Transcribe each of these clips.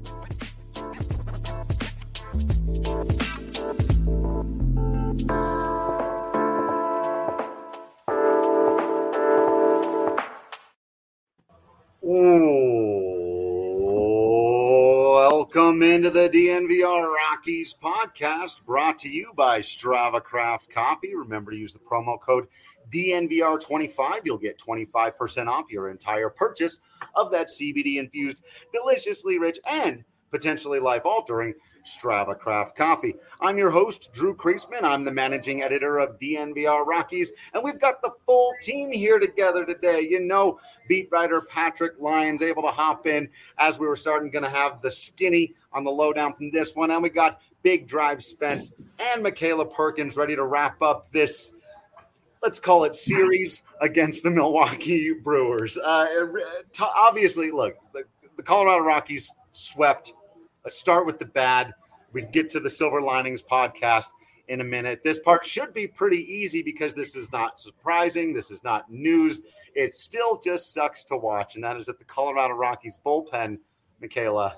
Welcome into the DNVR Rockies podcast, brought to you by Strava Craft Coffee. Remember to use the promo code DNVR25. You'll get 25% off your entire purchase of that CBD-infused, deliciously rich, and potentially life-altering Strava Craft Coffee. I'm your host, Drew Kreisman. I'm the managing editor of DNVR Rockies, and we've got the full team here together today. You know, beat writer Patrick Lyons able to hop in as we were going to have the skinny on the lowdown from this one, and we got Big Drive Spence and Michaela Perkins ready to wrap up this, let's call it, series against the Milwaukee Brewers. Obviously, look, the Colorado Rockies swept. Let's start with the bad. We can get to the Silver Linings podcast in a minute. This part should be pretty easy because this is not surprising. This is not news. It still just sucks to watch, and that is that the Colorado Rockies bullpen, Michaela,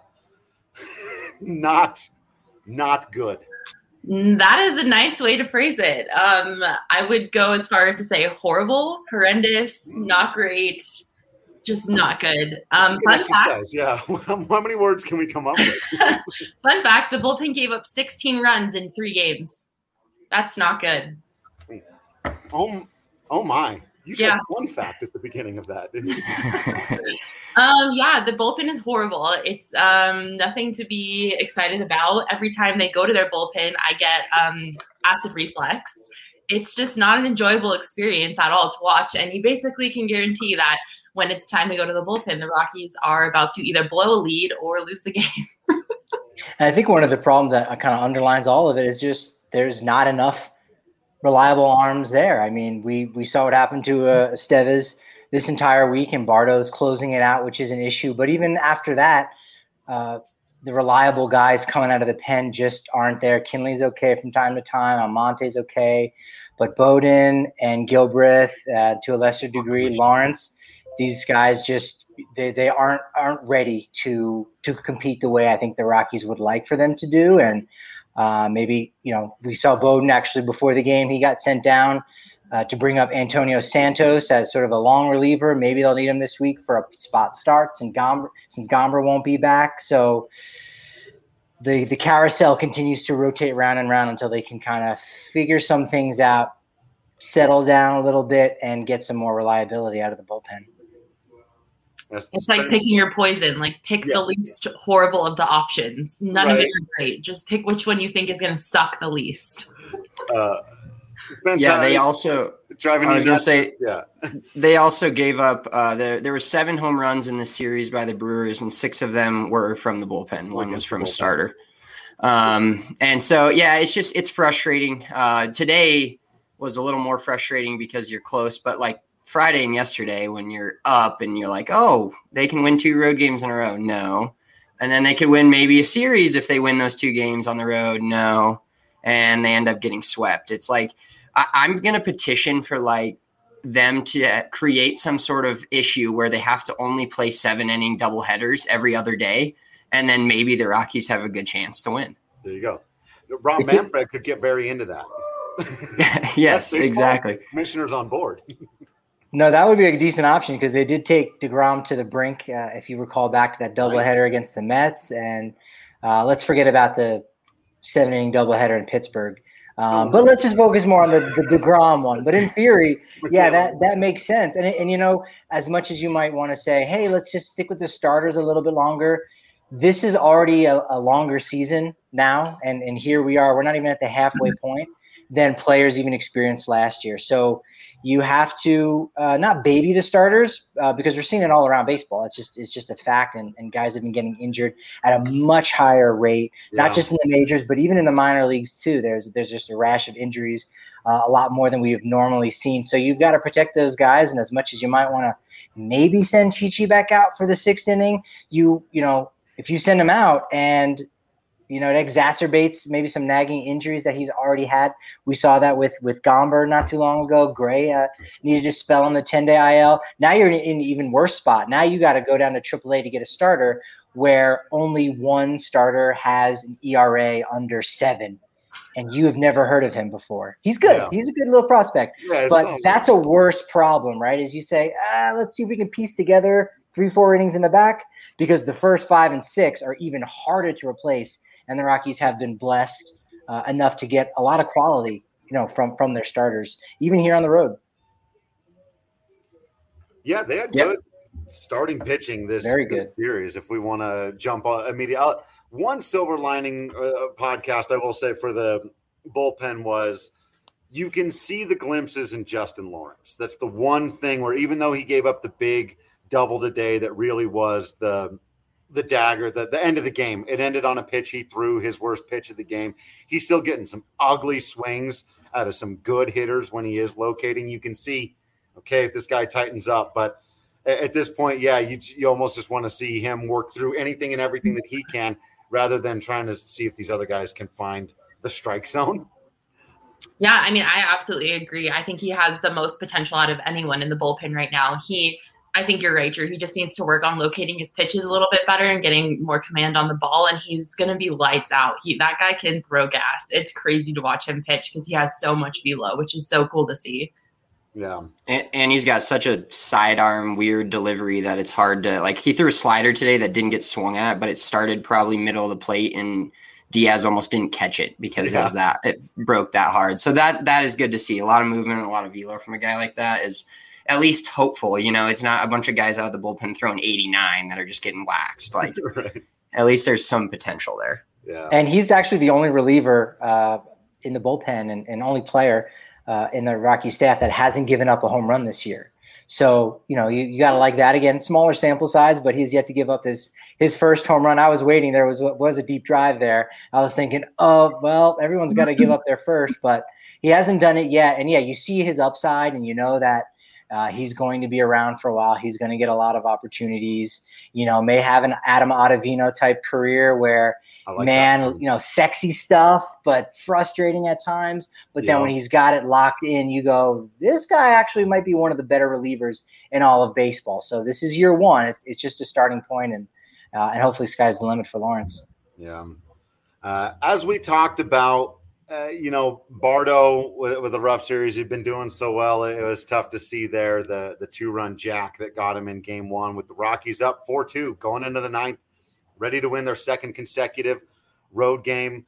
not good. That is a nice way to phrase it. I would go as far as to say horrible, horrendous, not great, just not good. Fun fact, yeah. How many words can we come up with? Fun fact, the bullpen gave up 16 runs in 3 games. That's not good. Oh my. You said one fact at the beginning of that, didn't you? Yeah, the bullpen is horrible. It's nothing to be excited about. Every time they go to their bullpen, I get acid reflux. It's just not an enjoyable experience at all to watch. And you basically can guarantee that when it's time to go to the bullpen, the Rockies are about to either blow a lead or lose the game. And I think one of the problems that kind of underlines all of it is just there's not enough reliable arms there. I mean, we saw what happened to Estevez this entire week, and Bardo's closing it out, which is an issue. But even after that, the reliable guys coming out of the pen just aren't there. Kinley's okay from time to time. Almonte's okay. But Bowden and Gilbreth, to a lesser degree, Lawrence, these guys just they aren't ready to compete the way I think the Rockies would like for them to do. And maybe, we saw Bowden actually before the game. He got sent down to bring up Antonio Santos as sort of a long reliever. Maybe they'll need him this week for a spot start since Gomber won't be back. So the carousel continues to rotate round and round until they can kind of figure some things out, settle down a little bit, and get some more reliability out of the bullpen. It's like picking your poison. Like pick the least horrible of the options. None of it are great. Just pick which one you think is going to suck the least. They also driving. I was going to say, they also gave up. There were 7 home runs in this series by the Brewers, and 6 of them were from the bullpen. One was from a starter. And so, it's frustrating. Today was a little more frustrating because you're close, but like Friday and yesterday when you're up and you're like, oh, they can win 2 road games in a row. No. And then they could win maybe a series if they win those 2 games on the road. No. And they end up getting swept. It's like, I'm going to petition for like them to create some sort of issue where they have to only play 7-inning doubleheaders every other day. And then maybe the Rockies have a good chance to win. There you go. Rob Manfred could get very into that. Yes, exactly. Commissioner's on board. No, that would be a decent option because they did take DeGrom to the brink, if you recall back to that doubleheader against the Mets. And let's forget about the 7-inning doubleheader in Pittsburgh. But let's just focus more on the DeGrom one. But in theory, that makes sense. And as much as you might want to say, hey, let's just stick with the starters a little bit longer, this is already a longer season now. And here we are. We're not even at the halfway point than players even experienced last year. So you have to not baby the starters because we're seeing it all around baseball. It's just a fact, and guys have been getting injured at a much higher rate, not just in the majors, but even in the minor leagues too. There's just a rash of injuries, a lot more than we have normally seen. So you've got to protect those guys, and as much as you might want to maybe send Chichi back out for the 6th inning, if you send him out and it exacerbates maybe some nagging injuries that he's already had. We saw that with Gomber not too long ago. Gray needed to spell on the 10-day IL. Now you're in an even worse spot. Now you got to go down to AAA to get a starter where only one starter has an ERA under 7, and you have never heard of him before. He's good. Yeah. He's a good little prospect. Yeah, but that's a worse problem, right? As you say, let's see if we can piece together 3-4 innings in the back, because the first 5 and 6 are even harder to replace, and the Rockies have been blessed enough to get a lot of quality, from their starters, even here on the road. Yeah, they had good starting pitching this series. If we want to jump on immediately, one silver lining podcast I will say for the bullpen was you can see the glimpses in Justin Lawrence. That's the one thing where even though he gave up the big double today, that really was the dagger, the end of the game. It ended on a pitch he threw, his worst pitch of the game. He's still getting some ugly swings out of some good hitters when he is locating. You can see, okay, if this guy tightens up, but at this point, you almost just want to see him work through anything and everything that he can, rather than trying to see if these other guys can find the strike zone. Yeah, I mean, I absolutely agree. I think he has the most potential out of anyone in the bullpen right now. I think you're right, Drew. He just needs to work on locating his pitches a little bit better and getting more command on the ball, and he's going to be lights out. That guy can throw gas. It's crazy to watch him pitch because he has so much velo, which is so cool to see. Yeah. And he's got such a sidearm weird delivery that it's hard to, like, he threw a slider today that didn't get swung at, but it started probably middle of the plate, and Diaz almost didn't catch it because it broke that hard. So that is good to see. A lot of movement and a lot of velo from a guy like that is at least hopeful. It's not a bunch of guys out of the bullpen throwing 89 that are just getting waxed. Like, right. At least there's some potential there. Yeah. And he's actually the only reliever in the bullpen and only player in the Rocky staff that hasn't given up a home run this year. So, you got to like that. Again, smaller sample size, but he's yet to give up his first home run. I was waiting. There was a deep drive there. I was thinking, oh, well, everyone's got to give up their first, but he hasn't done it yet. And you see his upside, and that he's going to be around for a while. He's going to get a lot of opportunities, may have an Adam Ottavino type career where, sexy stuff, but frustrating at times. But then when he's got it locked in, you go, this guy actually might be one of the better relievers in all of baseball. So this is year one. It's just a starting point, and hopefully sky's the limit for Lawrence. Yeah. As we talked about, Bardo with a rough series, he'd been doing so well. It was tough to see there the 2-run jack that got him in game 1 with the Rockies up 4-2 going into the 9th. Ready to win their second consecutive road game,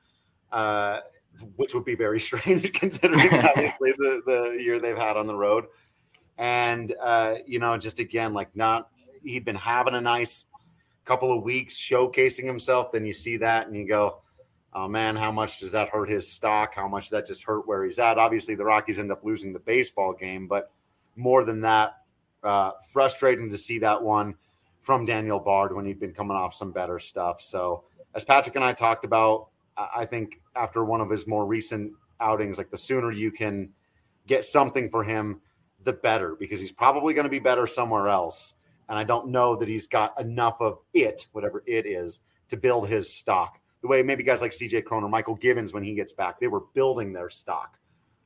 which would be very strange considering obviously the year they've had on the road. And, just again, he'd been having a nice couple of weeks showcasing himself. Then you see that and you go, oh man, how much does that hurt his stock? How much does that just hurt where he's at? Obviously the Rockies end up losing the baseball game, but more than that, frustrating to see that one from Daniel Bard when he'd been coming off some better stuff. So as Patrick and I talked about, I think after one of his more recent outings, the sooner you can get something for him, the better, because he's probably going to be better somewhere else. And I don't know that he's got enough of it, whatever it is, to build his stock. The way maybe guys like CJ Cron or Michael Givens, when he gets back, they were building their stock.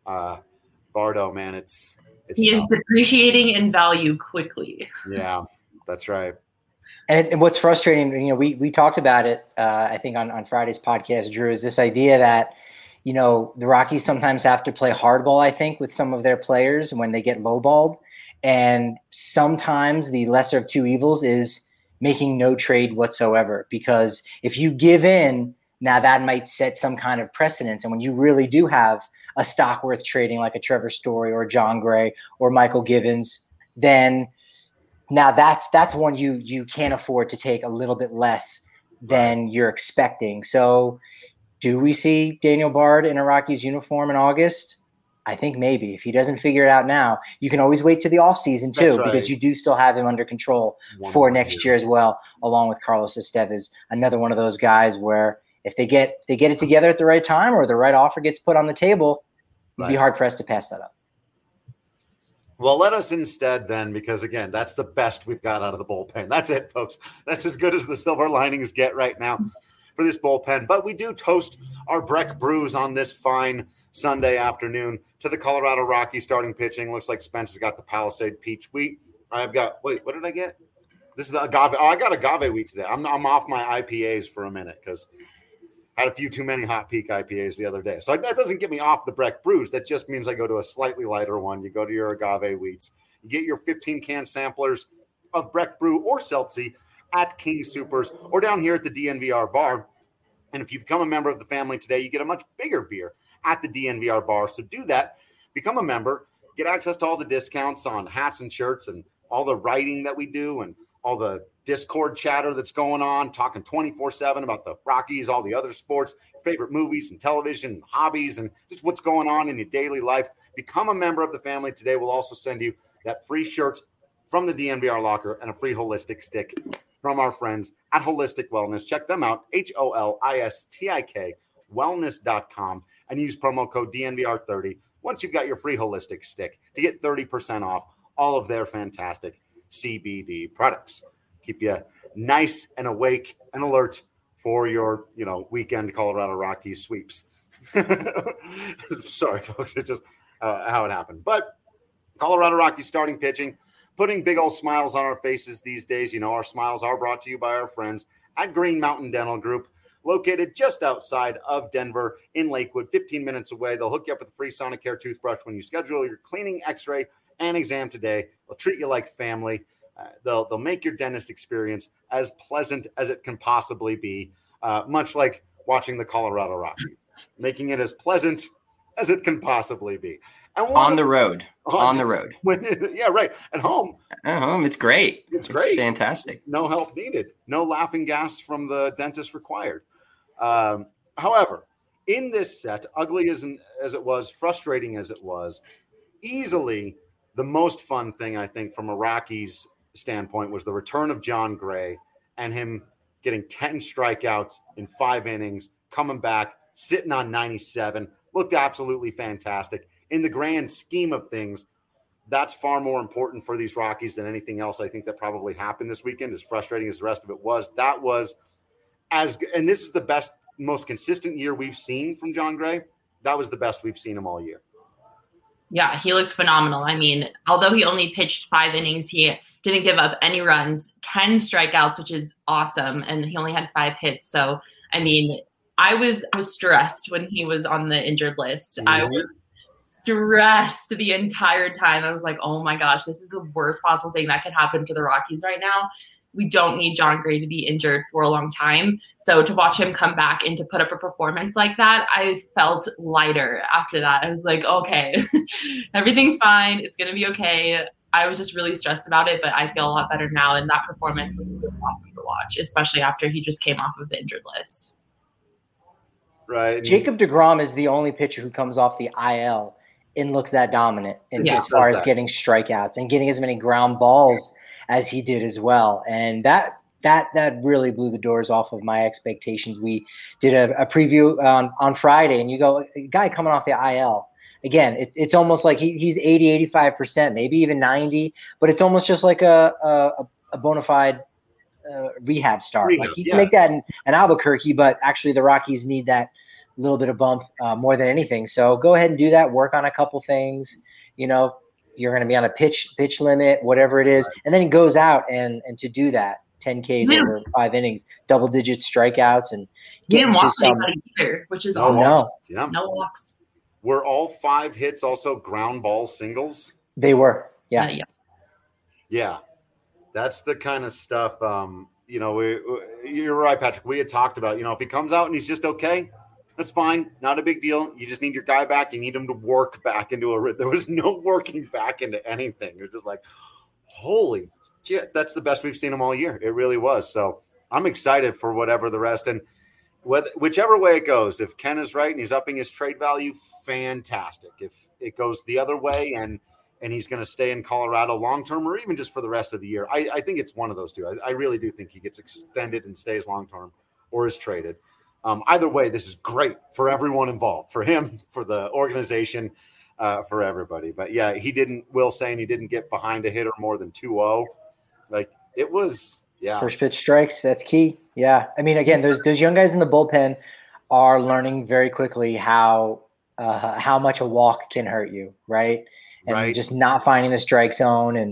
Bardo, man, it's he tough. Is depreciating in value quickly. Yeah, that's right. And what's frustrating, we talked about it, I think on Friday's podcast, Drew, is this idea that, the Rockies sometimes have to play hardball, I think, with some of their players when they get lowballed. And sometimes the lesser of two evils is making no trade whatsoever, because if you give in, now that might set some kind of precedence. And when you really do have a stock worth trading, like a Trevor Story or John Gray or Michael Givens, then now that's one you can't afford to take a little bit less than you're expecting. So do we see Daniel Bard in a Rockies uniform in August? I think maybe. If he doesn't figure it out now, you can always wait to the offseason too, because you do still have him under control for next year as well, along with Carlos Estevez, another one of those guys where if they get it together at the right time or the right offer gets put on the table, you'd be hard-pressed to pass that up. Well, let us instead then, because, again, that's the best we've got out of the bullpen. That's it, folks. That's as good as the silver linings get right now for this bullpen. But we do toast our Breck Brews on this fine Sunday afternoon to the Colorado Rockies starting pitching. Looks like Spence has got the Palisade Peach Wheat. I've got – wait, what did I get? This is the agave. Oh, I got agave week today. I'm off my IPAs for a minute because I had a few too many Hot Peak IPAs the other day. So that doesn't get me off the Breck Brews. That just means I go to a slightly lighter one. You go to your agave wheats. You get your 15-can samplers of Breck Brew or Seltzy at King Supers or down here at the DNVR bar. And if you become a member of the family today, you get a much bigger beer at the DNVR bar. So do that. Become a member. Get access to all the discounts on hats and shirts and all the writing that we do and all the Discord chatter that's going on, talking 24/7 about the Rockies, all the other sports, favorite movies and television, hobbies, and just what's going on in your daily life. Become a member of the family today. We'll also send you that free shirt from the DNVR locker and a free holistic stick from our friends at Holistic Wellness. Check them out, HOLISTIK wellness.com, and use promo code DNVR30 once you've got your free holistic stick to get 30% off all of their fantastic CBD products. Keep you nice and awake and alert for your, weekend Colorado Rockies sweeps. Sorry, folks. It's just how it happened. But Colorado Rockies starting pitching, putting big old smiles on our faces these days. Our smiles are brought to you by our friends at Green Mountain Dental Group, located just outside of Denver in Lakewood, 15 minutes away. They'll hook you up with a free Sonicare toothbrush when you schedule your cleaning, x-ray, and exam today. They'll treat you like family. They'll make your dentist experience as pleasant as it can possibly be, much like watching the Colorado Rockies, making it as pleasant as it can possibly be. And on the road. Yeah, right. At home, it's great. It's great. Fantastic. No help needed. No laughing gas from the dentist required. However, in this set, ugly as it was, frustrating as it was, easily the most fun thing, I think, from a Rockies standpoint was the return of Jon Gray and him getting 10 strikeouts in 5 innings, coming back, sitting on 97, looked absolutely fantastic. In the grand scheme of things, that's far more important for these Rockies than anything else I think that probably happened this weekend, as frustrating as the rest of it was. That was and this is the best, most consistent year we've seen from Jon Gray. That was the best we've seen him all year. Yeah, he looks phenomenal. I mean, although he only pitched 5 innings, he didn't give up any runs, 10 strikeouts, which is awesome. And he only had 5 hits. So, I mean, I was stressed when he was on the injured list. Mm-hmm. I was stressed the entire time. I was like, oh my gosh, this is the worst possible thing that could happen for the Rockies right now. We don't need Jon Gray to be injured for a long time. So to watch him come back and to put up a performance like that, I felt lighter after that. I was like, okay, everything's fine. It's going to be okay. I was just really stressed about it, but I feel a lot better now. And that performance was really awesome to watch, especially after he just came off of the injured list. Right. Jacob deGrom is the only pitcher who comes off the IL and looks that dominant as far as getting strikeouts and getting as many ground balls as he did as well. And that really blew the doors off of my expectations. We did a preview on Friday, and you go, a guy coming off the IL. Again, it's almost like he's 80, 85%, maybe even 90, but it's almost just like a bona fide rehab start. Like he can make that in Albuquerque, but actually the Rockies need that little bit of bump more than anything. So go ahead and do that. Work on a couple things. You're going to be on a pitch limit, whatever it is. Right. And then he goes out and to do that, 10 Ks over 5 innings, double-digit strikeouts. And he didn't walk anybody either, which is awesome. No walks. Were all 5 hits also ground ball singles? They were, yeah. Yeah. That's the kind of stuff, you're right, Patrick. We had talked about, if he comes out and he's just okay, that's fine. Not a big deal. You just need your guy back. You need him to work back into there was no working back into anything. It was just like, holy shit, that's the best we've seen him all year. It really was. So I'm excited for whatever the rest. And whichever way it goes, if Ken is right and he's upping his trade value, fantastic. If it goes the other way and he's going to stay in Colorado long-term or even just for the rest of the year, I think it's one of those two. I really do think he gets extended and stays long-term or is traded. Either way, this is great for everyone involved, for him, for the organization, for everybody. But yeah, Will saying he didn't get behind a hitter more than 2-0. Like it was, First pitch strikes, that's key. Yeah. I mean, again, those young guys in the bullpen are learning very quickly how much a walk can hurt you, right? And just not finding the strike zone and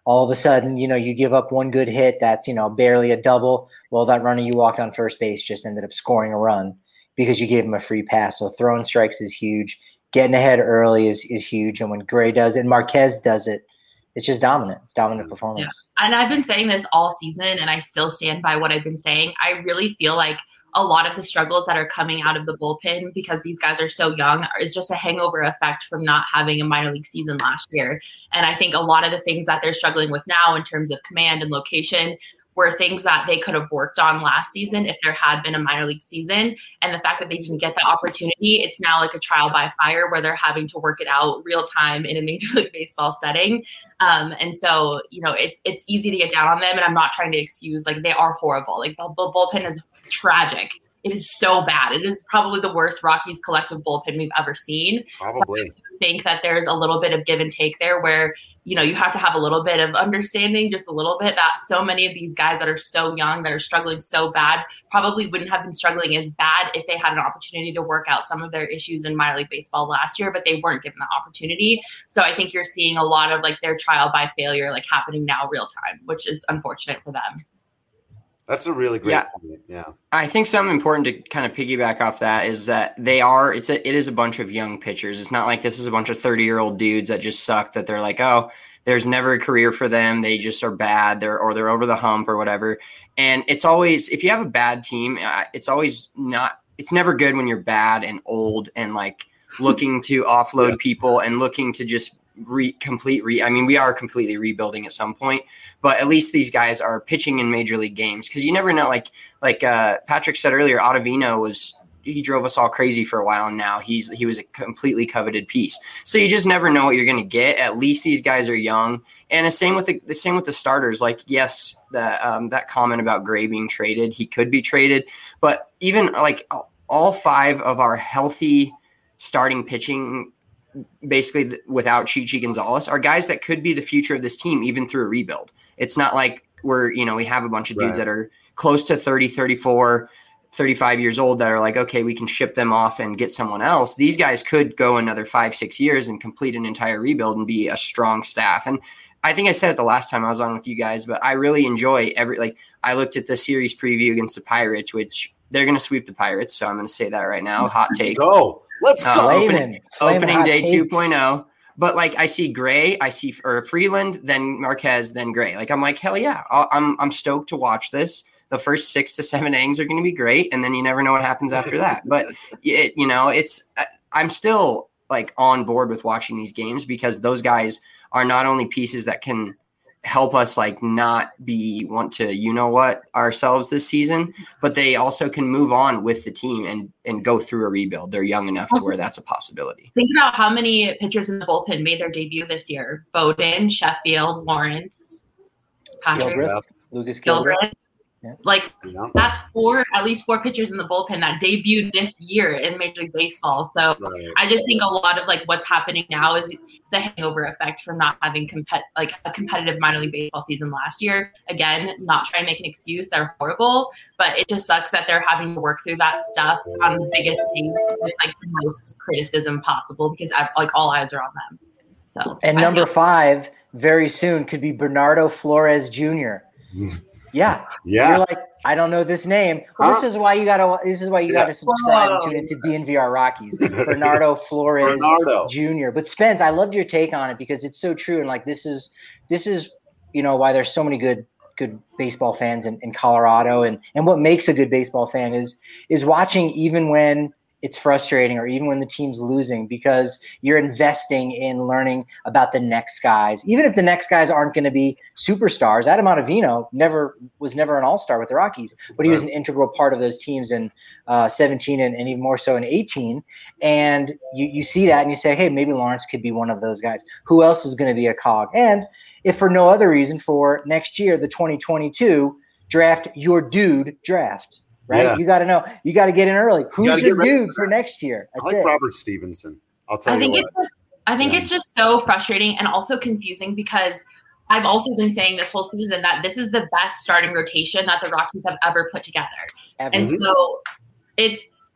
all of a sudden, you give up one good hit that's, barely a double. Well, that runner you walked on first base just ended up scoring a run because you gave him a free pass. So throwing strikes is huge. Getting ahead early is huge. And when Gray does it, Marquez does it, it's just dominant. It's dominant performance. Yeah. And I've been saying this all season, and I still stand by what I've been saying. I really feel like a lot of the struggles that are coming out of the bullpen because these guys are so young is just a hangover effect from not having a minor league season last year. And I think a lot of the things that they're struggling with now in terms of command and location were things that they could have worked on last season if there had been a minor league season. And the fact that they didn't get the opportunity, it's now like a trial by fire where they're having to work it out real time in a Major League Baseball setting. And so, it's easy to get down on them. And I'm not trying to excuse, like, they are horrible. Like, the bullpen is tragic. It is so bad. It is probably the worst Rockies collective bullpen we've ever seen. Probably. I think that there's a little bit of give and take there where, you have to have a little bit of understanding, just a little bit, that so many of these guys that are so young, that are struggling so bad, probably wouldn't have been struggling as bad if they had an opportunity to work out some of their issues in minor league baseball last year, but they weren't given that opportunity. So I think you're seeing a lot of like their trial by failure, like happening now real time, which is unfortunate for them. That's a really great point. Yeah. I think something important to kind of piggyback off that is that it is a bunch of young pitchers. It's not like this is a bunch of 30-year-old dudes that just suck, that they're like, oh, there's never a career for them. They just are bad. They're over the hump or whatever. And it's always, if you have a bad team, it's never good when you're bad and old and like looking to offload people and looking to just we are completely rebuilding at some point, but at least these guys are pitching in major league games. Cause you never know, like Patrick said earlier, Ottavino he drove us all crazy for a while. And now he was a completely coveted piece. So you just never know what you're going to get. At least these guys are young. And the same with the starters. Like, yes, that comment about Gray being traded, he could be traded, but even like all 5 of our healthy starting pitching, basically without Chichi Gonzalez, are guys that could be the future of this team, even through a rebuild. It's not like we have a bunch of dudes that are close to 30, 34, 35 years old that are like, okay, we can ship them off and get someone else. These guys could go another 5-6 years and complete an entire rebuild and be a strong staff. And I think I said it the last time I was on with you guys, but I really enjoy I looked at the series preview against the Pirates, which they're going to sweep the Pirates. So I'm going to say that right now. Hot take. Let's go. Opening day 2.0. But like I see Gray, Freeland, then Marquez, then Gray. Like I'm like, hell yeah. I'm stoked to watch this. The first 6 to 7 innings are going to be great. And then you never know what happens after that. But I'm still like on board with watching these games because those guys are not only pieces that can help us like not want to ourselves this season, but they also can move on with the team and go through a rebuild. They're young enough to where that's a possibility. Think about how many pitchers in the bullpen made their debut this year: Bowden, Sheffield, Lawrence, Patrick, Lucas Gilbert. Yeah. That's at least 4 pitchers in the bullpen that debuted this year in Major League Baseball. So I just think a lot of like what's happening now is the hangover effect from not having a competitive minor league baseball season last year. Again, not trying to make an excuse. They're horrible, but it just sucks that they're having to work through that stuff on the biggest team with like the most criticism possible because like all eyes are on them. So and number 5 very soon could be Bernardo Flores Jr. Yeah. You're like, I don't know this name. Well, this is why you gotta subscribe and tune into DNVR Rockies. Bernardo Flores Jr. But Spence, I loved your take on it because it's so true. And like this is why there's so many good baseball fans in Colorado. And what makes a good baseball fan is watching even when it's frustrating or even when the team's losing, because you're investing in learning about the next guys. Even if the next guys aren't going to be superstars, Adam Ottavino was never an all-star with the Rockies, but he was an integral part of those teams in 17 and even more so in 18. And you see that and you say, hey, maybe Lawrence could be one of those guys. Who else is going to be a cog? And if for no other reason, for next year, the 2022 draft, your dude draft. Right? Yeah. You got to know. You got to get in early. Who's your dude for next year? That's it. Robert Stevenson. I'll tell you what. I think it's just so frustrating and also confusing because I've also been saying this whole season that this is the best starting rotation that the Rockies have ever put together. And so it's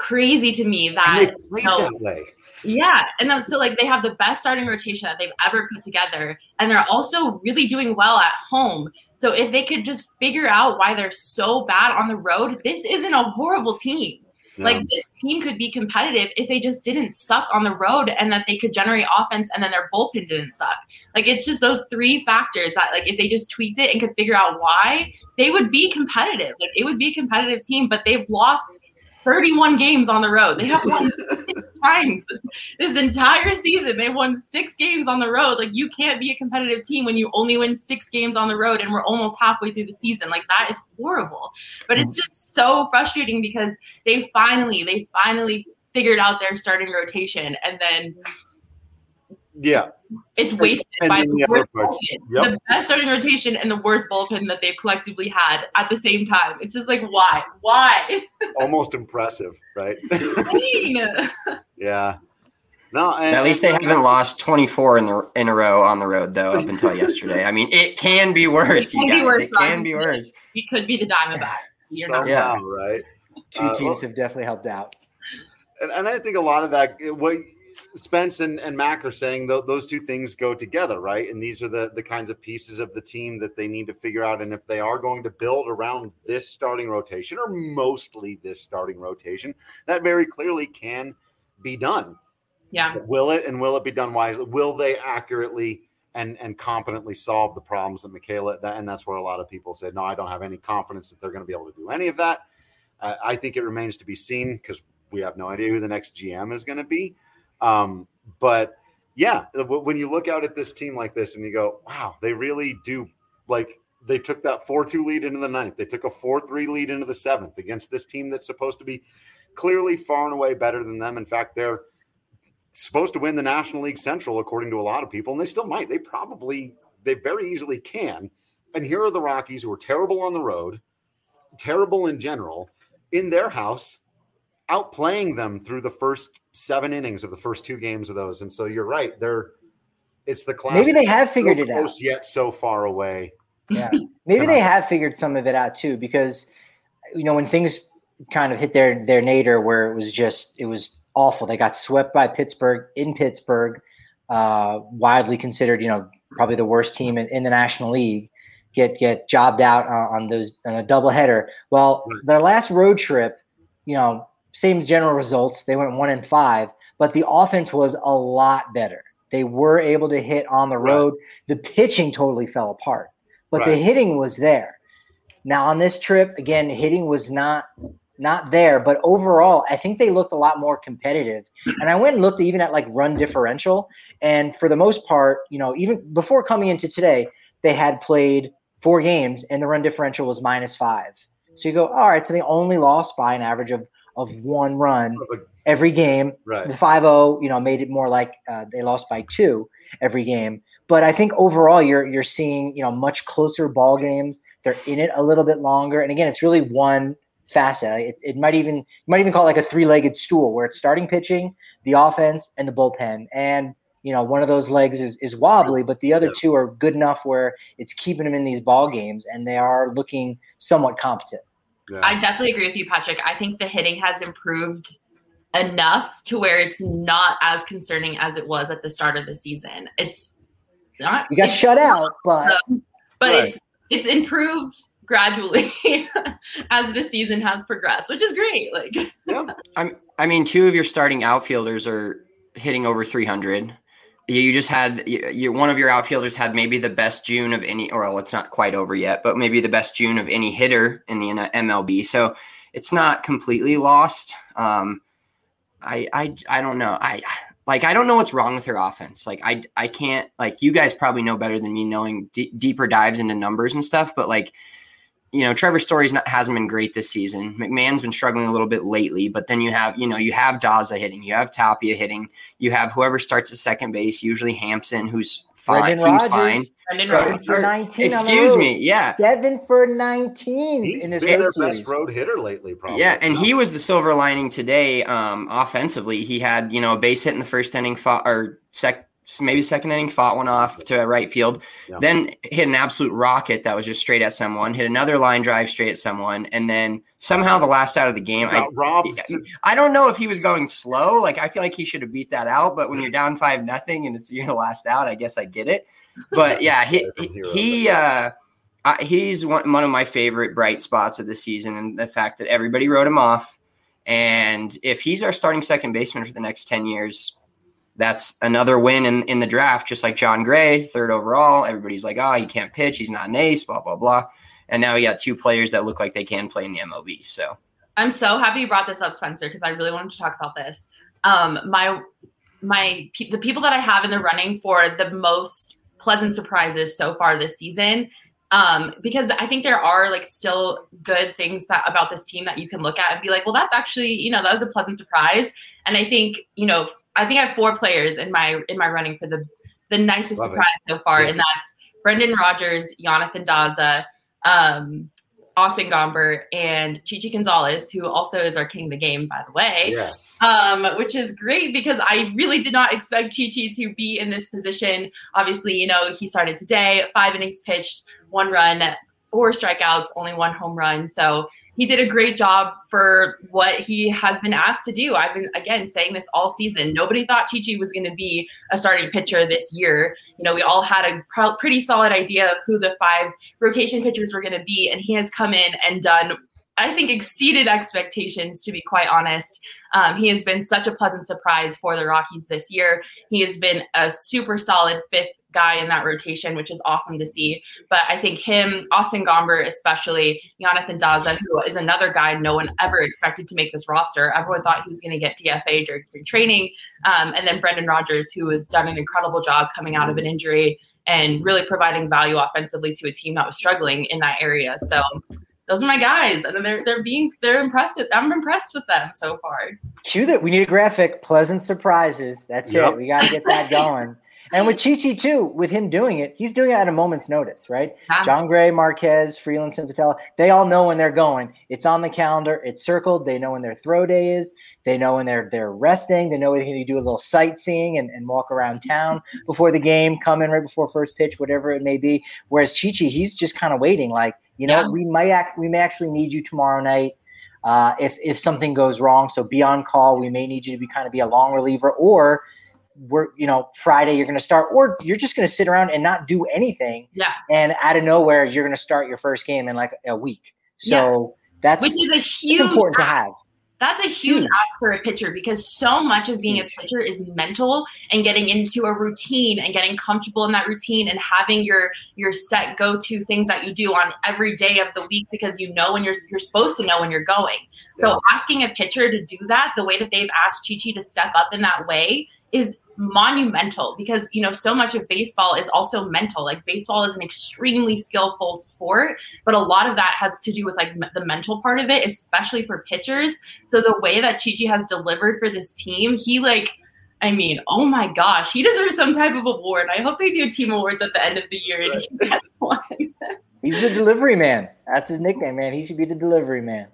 crazy to me that, that way. Yeah. And so like they have the best starting rotation that they've ever put together. And they're also really doing well at home. So if they could just figure out why they're so bad on the road, this isn't a horrible team. Yeah. Like this team could be competitive if they just didn't suck on the road and that they could generate offense and then their bullpen didn't suck. Like it's just those three factors that like if they just tweaked it and could figure out why, they would be competitive. Like it would be a competitive team, but they've lost 31 games on the road. They have won 6 times this entire season. They won 6 games on the road. Like you can't be a competitive team when you only win 6 games on the road and we're almost halfway through the season. Like that is horrible. But it's just so frustrating because they finally figured out their starting rotation and then it's wasted by the worst bullpen. The best starting rotation and the worst bullpen that they've collectively had at the same time. It's just like, why? Almost impressive, right? Yeah. No, at least they haven't lost 24 in a row on the road, though, up until yesterday. I mean, it can be worse, you guys. It can be worse. It could be the Diamondbacks. Right? 2 teams have definitely helped out. And I think a lot of that, what Spence and Mac are saying, those 2 things go together, right? And these are the kinds of pieces of the team that they need to figure out. And if they are going to build around this starting rotation, or mostly this starting rotation, that very clearly can be done. Yeah. Will it be done wisely? Will they accurately and competently solve the problems that Michaela, and that's where a lot of people said, no, I don't have any confidence that they're going to be able to do any of that. I think it remains to be seen because we have no idea who the next GM is going to be. But yeah, when you look out at this team like this and you go, wow, they really do, like they took that 4-2 lead into the 9th. They took a 4-3 lead into the 7th against this team that's supposed to be clearly far and away better than them. In fact, they're supposed to win the National League Central, according to a lot of people, and they still might. They very easily can. And here are the Rockies, who are terrible on the road, terrible in general, in their house, outplaying them through the first 7 innings of the first 2 games of those. And so you're right. It's the classic. Maybe they have figured it out. Yet so far away. Yeah. Maybe they have figured some of it out too, because, when things kind of hit their nadir where it was awful. They got swept by Pittsburgh in Pittsburgh, widely considered, probably the worst team in the National League, get jobbed out on a doubleheader. Well, their last road trip, same general results. They went 1-5, but the offense was a lot better. They were able to hit on the road. The pitching totally fell apart, but the hitting was there. Now on this trip, again, hitting was not there, but overall, I think they looked a lot more competitive. And I went and looked even at like run differential. And for the most part, even before coming into today, they had played 4 games and the run differential was -5. So you go, all right, so they only lost by an average of 1 run every game. Right. The 5-0, made it more like they lost by 2 every game. But I think overall you're seeing, much closer ball games. They're in it a little bit longer. And again, it's really one facet. It might even call it like a 3-legged stool where it's starting pitching, the offense, and the bullpen. And one of those legs is wobbly, but the other 2 are good enough where it's keeping them in these ball games, and they are looking somewhat competent. Yeah. I definitely agree with you, Patrick. I think the hitting has improved enough to where it's not as concerning as it was at the start of the season. It's not. You got shut out, but it's improved gradually as the season has progressed, which is great. Like, I mean, 2 of your starting outfielders are hitting over 300. You just had one of your outfielders had maybe the best June of any, or it's not quite over yet, but maybe the best June of any hitter in the MLB. So it's not completely lost. I don't know. I don't know what's wrong with their offense. Like I can't, like, you guys probably know better than me, knowing deeper dives into numbers and stuff, but like, Trevor Story hasn't been great this season. McMahon's been struggling a little bit lately, but then you have Daza hitting, you have Tapia hitting, you have whoever starts at second base, usually Hampson, who's fine, seems fine. 7 for 19. Excuse me, yeah. 7 for 19. He's been their best road hitter lately, probably. Yeah, and he was the silver lining today. Offensively, he had a base hit in the first inning, maybe second inning, fought one off to right field, then hit an absolute rocket that was just straight at someone, hit another line drive straight at someone, and then somehow the last out of the game, I don't know if he was going slow. Like, I feel like he should have beat that out, but when you're down 5-0 and you're the last out, I guess I get it. But yeah, he's one of my favorite bright spots of the season, and the fact that everybody wrote him off. And if he's our starting second baseman for the next 10 years, that's another win in the draft, just like John Gray, 3rd overall. Everybody's like, oh, he can't pitch. He's not an ace, blah, blah, blah. And now we got 2 players that look like they can play in the MLB. So I'm so happy you brought this up, Spencer, because I really wanted to talk about this. The people that I have in the running for the most pleasant surprises so far this season, because I think there are like still good things about this team that you can look at and be like, well, that's actually, that was a pleasant surprise. And I think, I have 4 players in my running for the nicest surprise so far. Yeah. And that's Brendan Rodgers, Jonathan Daza, Austin Gomber, and Chichi Gonzalez, who also is our king of the game, by the way. Yes. Which is great because I really did not expect Chichi to be in this position. Obviously, he started today, 5 innings pitched, 1 run, 4 strikeouts, only 1 home run. So he did a great job for what he has been asked to do. I've been, again, saying this all season. Nobody thought Chichi was going to be a starting pitcher this year. We all had a pretty solid idea of who the 5 rotation pitchers were going to be, and he has come in and done, I think, exceeded expectations, to be quite honest. He has been such a pleasant surprise for the Rockies this year. He has been a super solid 5th guy in that rotation, which is awesome to see. But I think him, Austin Gomber especially, Jonathan Daza, who is another guy no one ever expected to make this roster. Everyone thought he was going to get DFA during spring training. And then Brendan Rodgers, who has done an incredible job coming out of an injury and really providing value offensively to a team that was struggling in that area. So those are my guys, and then they're impressive. I'm impressed with them so far. Cue that. We need a graphic. Pleasant surprises. That's it. We got to get that going. And with Chichi too, with him doing it, he's doing it at a moment's notice, right? Yeah. John Gray, Marquez, Freeland, Senzatella, they all know when they're going. It's on the calendar. It's circled. They know when their throw day is. They know when they're resting. They know when you do a little sightseeing and walk around town before the game, come in right before first pitch, whatever it may be. Whereas Chichi, he's just kind of waiting, like, we may actually need you tomorrow night if something goes wrong. So be on call. We may need you to be a long reliever, or Friday you're going to start, or you're just going to sit around and not do anything. Yeah. And out of nowhere, you're going to start your first game in like a week. So which is a huge important to have. That's a huge ask for a pitcher, because so much of being a pitcher is mental and getting into a routine and getting comfortable in that routine and having your set go-to things that you do on every day of the week, because when you're supposed to know when you're going. Yeah. So asking a pitcher to do that the way that they've asked Chichi to step up in that way is monumental, because so much of baseball is also mental. Like, baseball is an extremely skillful sport, but a lot of that has to do with like the mental part of it, especially for pitchers. So the way that Chichi has delivered for this team, oh my gosh, he deserves some type of award. I hope they do team awards at the end of the year and he gets one. He's the delivery man. That's his nickname, man. He should be the delivery man.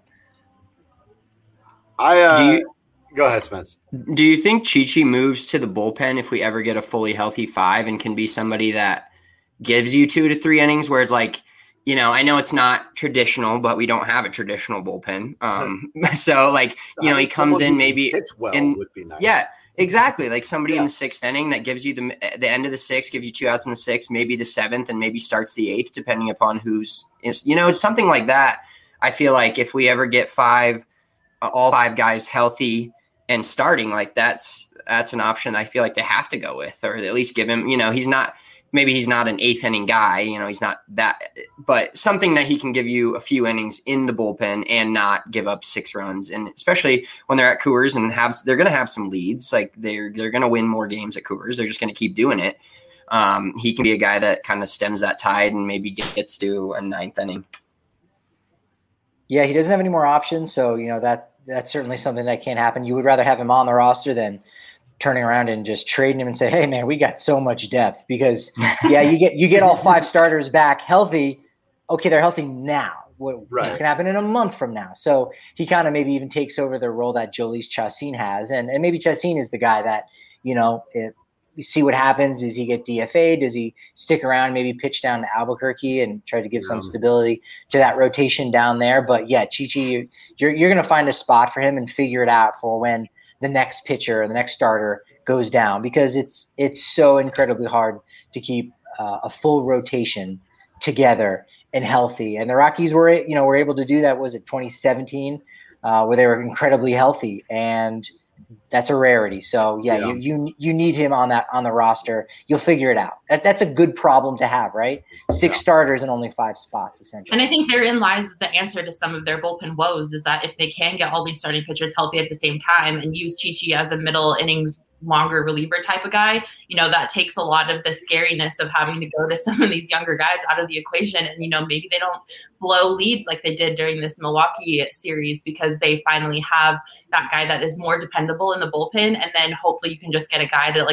Go ahead, Spence. Do you think Chichi moves to the bullpen if we ever get a fully healthy 5 and can be somebody that gives you 2 to 3 innings, where it's like, I know it's not traditional, but we don't have a traditional bullpen. So like, he comes in maybe would be nice. Yeah, exactly. Like somebody in the 6th inning that gives you the end of the 6th, gives you 2 outs in the 6th, maybe the 7th, and maybe starts the 8th, depending upon it's something like that. I feel like if we ever get all 5 guys healthy and starting, like that's an option I feel like they have to go with, or at least give him, he's not an 8th inning guy, he's not that, but something that he can give you a few innings in the bullpen and not give up 6 runs. And especially when they're at Coors and they're going to have some leads, like they're going to win more games at Coors. They're just going to keep doing it. He can be a guy that kind of stems that tide and maybe gets to a 9th inning. Yeah, he doesn't have any more options, so that's certainly something that can't happen. You would rather have him on the roster than turning around and just trading him and say, "Hey, man, we got so much depth." Because you get all 5 starters back healthy. Okay, they're healthy now. What's going to happen in a month from now? So he kind of maybe even takes over the role that Jhoulys Chacín has, and maybe Chacín is the guy that see what happens. Does he get DFA? Does he stick around, maybe pitch down to Albuquerque and try to give some stability to that rotation down there? But yeah, Chichi, you're going to find a spot for him and figure it out for when the next pitcher or the next starter goes down, because it's so incredibly hard to keep a full rotation together and healthy. And the Rockies were able to do that. Was it 2017 where they were incredibly healthy, and that's a rarity. So yeah. You need him on the roster. You'll figure it out. That's a good problem to have, right? 6 starters and only 5 spots, essentially. And I think therein lies the answer to some of their bullpen woes, is that if they can get all these starting pitchers healthy at the same time and use Chichi as a middle innings longer reliever type of guy, that takes a lot of the scariness of having to go to some of these younger guys out of the equation. And, maybe they don't blow leads like they did during this Milwaukee series, because they finally have that guy that is more dependable in the bullpen. And then hopefully you can just get a guy to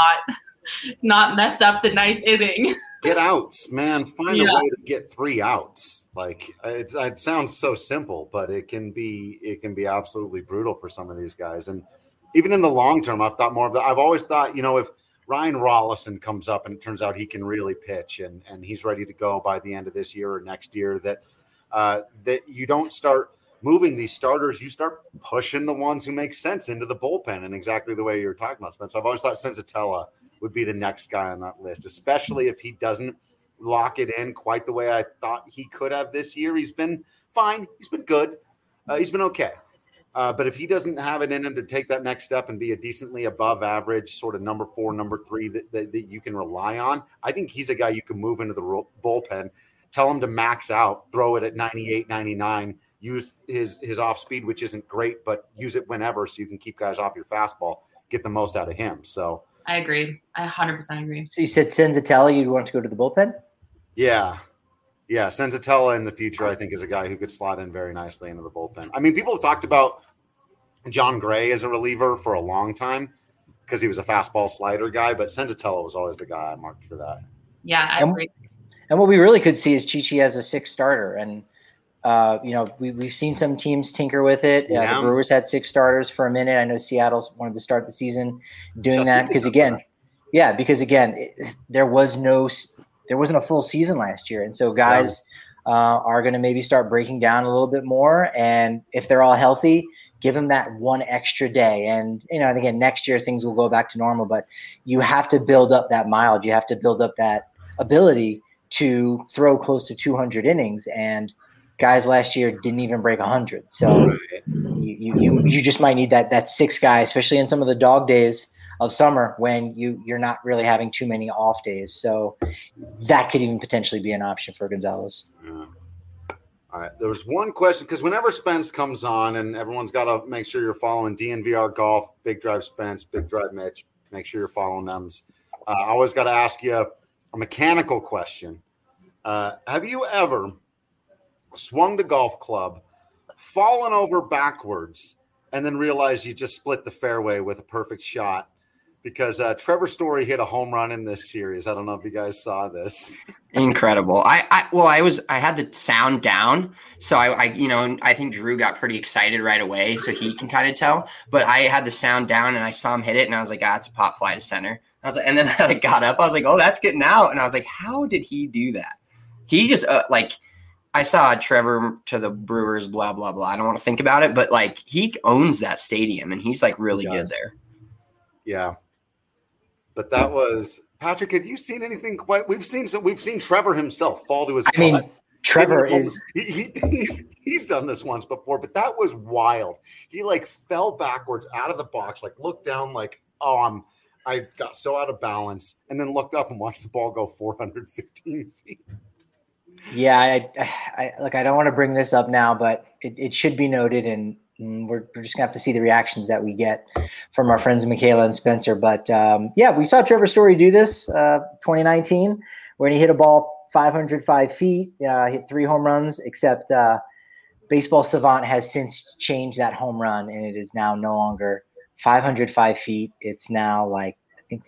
not mess up the 9th inning. Get outs, man. Find a way to get 3 outs. Like it sounds so simple, but it can be absolutely brutal for some of these guys. And even in the long term, I've thought more of that. I've always thought, if Ryan Rollison comes up and it turns out he can really pitch and he's ready to go by the end of this year or next year, that you don't start moving these starters. You start pushing the ones who make sense into the bullpen, and exactly the way you're talking about, Spence. I've always thought Senzatella would be the next guy on that list, especially if he doesn't lock it in quite the way I thought he could have this year. He's been fine. He's been good. He's been okay. But if he doesn't have it in him to take that next step and be a decently above average sort of number 4, number 3 that you can rely on, I think he's a guy you can move into the bullpen, tell him to max out, throw it at 98, 99, use his off speed, which isn't great, but use it whenever so you can keep guys off your fastball, get the most out of him. So I agree. I 100% agree. So you said Senzatella, you'd want to go to the bullpen? Yeah. Yeah, Senzatella in the future, I think, is a guy who could slot in very nicely into the bullpen. I mean, people have talked about John Gray as a reliever for a long time because he was a fastball slider guy, but Senzatella was always the guy I marked for that. Yeah, I agree. And what we really could see is Chichi as a 6th starter. And, we've seen some teams tinker with it. The Brewers had 6 starters for a minute. I know Seattle wanted to start the season doing that because, again, there wasn't a full season last year. And so guys are going to maybe start breaking down a little bit more. And if they're all healthy, give them that one extra day. And, and again, next year things will go back to normal, but you have to build up that mileage. You have to build up that ability to throw close to 200 innings. And guys last year didn't even break 100. So you just might need that 6th guy, especially in some of the dog days of summer when you're not really having too many off days. So that could even potentially be an option for Gonzalez. Yeah. All right. There was one question, because whenever Spence comes on, and everyone's got to make sure you're following DNVR Golf, Big Drive Spence, Big Drive Mitch, make sure you're following them. I always got to ask you a mechanical question. Have you ever swung the golf club, fallen over backwards, and then realized you just split the fairway with a perfect shot? Because Trevor Story hit a home run in this series. I don't know if you guys saw this. Incredible. I had the sound down, so I think Drew got pretty excited right away, so he can kind of tell. But I had the sound down, and I saw him hit it, and I was like, it's a pop fly to center. I was like, and then I got up. I was like, oh, that's getting out, and I was like, how did he do that? He just I saw Trevor to the Brewers, blah blah blah. I don't want to think about it, but he owns that stadium, and he's really good there. Yeah. But that was Patrick. Have you seen anything quite? We've seen Trevor himself fall to his. I mean, Trevor is he's done this once before, but that was wild. He fell backwards out of the box, looked down, I got so out of balance, and then looked up and watched the ball go 415 feet. Yeah, I don't want to bring this up now, but it should be noted, and we're just gonna have to see the reactions that we get from our friends Michaela and Spencer. But we saw Trevor Story do this 2019 when he hit a ball 505 feet, hit 3 home runs, except Baseball Savant has since changed that home run, and it is now no longer 505 feet. It's now I think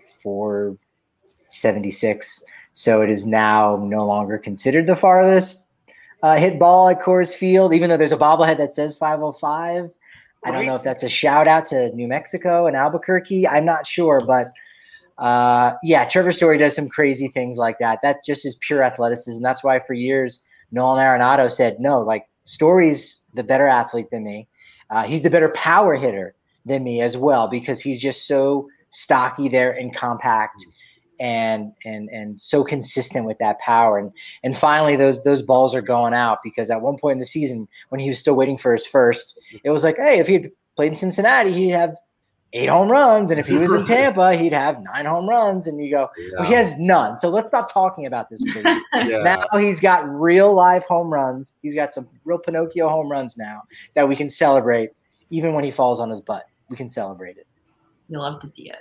476. So it is now no longer considered the farthest hit ball at Coors Field, even though there's a bobblehead that says 505. I don't know if that's a shout out to New Mexico and Albuquerque. I'm not sure, but Trevor Story does some crazy things like that. That just is pure athleticism. That's why for years Nolan Arenado said, no, like Story's the better athlete than me. He's the better power hitter than me as well, because he's just so stocky there and compact and so consistent with that power. And finally those balls are going out, because at one point in the season when he was still waiting for his first, it was like, hey, if he had played in Cincinnati, he'd have 8 home runs. And if he was in Tampa, he'd have 9 home runs. And you go, well, he has none. So let's stop talking about this, please. Now he's got real live home runs. He's got some real Pinocchio home runs now that we can celebrate. Even when he falls on his butt, we can celebrate it. You'll love to see it.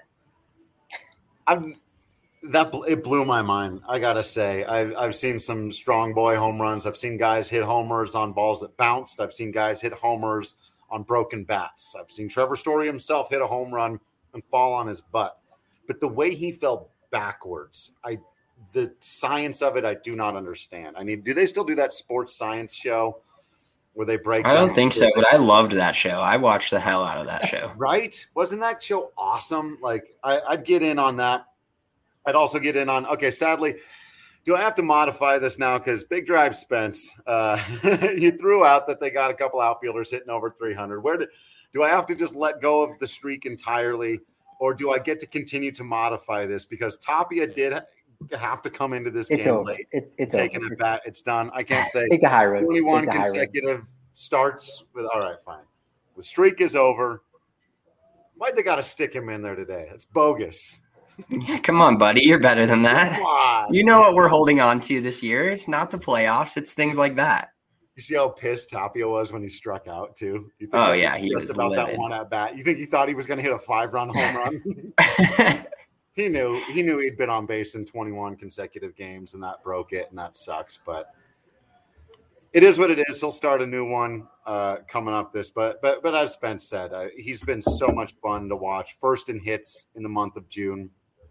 It blew my mind. I gotta say, I've seen some strong boy home runs. I've seen guys hit homers on balls that bounced. I've seen guys hit homers on broken bats. I've seen Trevor Story himself hit a home run and fall on his butt. But the way he fell backwards, the science of it, I do not understand. I mean, do they still do that sports science show where they break? I don't think so, but I loved that show. I watched the hell out of that show. Right? Wasn't that show awesome? Like, I'd get in on that. I'd also get in on, okay, sadly, do I have to modify this now? Because Big Drive Spence, you threw out that they got a couple outfielders hitting over 300. Do I have to just let go of the streak entirely, or do I get to continue to modify this? Because Tapia did have to come into this game over. late. It's taking over. It back. It's done. I can't say take a high road. 21 consecutive starts. All right, fine. The streak is over. Why'd they got to stick him in there today? It's bogus. Come on, buddy. You're better than that. You know what we're holding on to this year. It's not the playoffs. It's things like that. You see how pissed Tapia was when he struck out, too? He was just about livid. That one at bat. You think he thought he was going to hit a 5-run home run? He knew he'd been on base in 21 consecutive games, and that broke it, and that sucks. But it is what it is. He'll start a new one coming up But as Spence said, he's been so much fun to watch. First in hits in the month of June.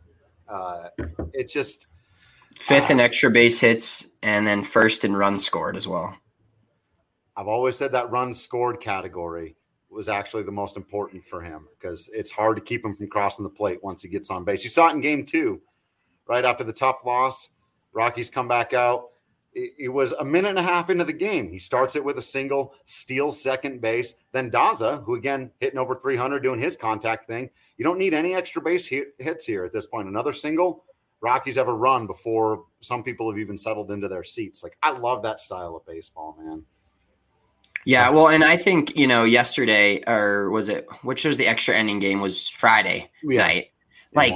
It's just 5th in extra base hits, and then 1st in runs scored as well. I've always said that runs scored category was actually the most important for him, because it's hard to keep him from crossing the plate once he gets on base. You saw it in game 2, right after the tough loss. Rockies come back out. It was a minute and a half into the game. He starts it with a single, steals second base. Then Daza, who again hitting over 300, doing his contact thing. You don't need any extra base hits here at this point. Another single, Rockies have a run before some people have even settled into their seats. Like, I love that style of baseball, man. Yeah, well, and I think, yesterday, or was it, which was the extra inning game, was Friday night. Like,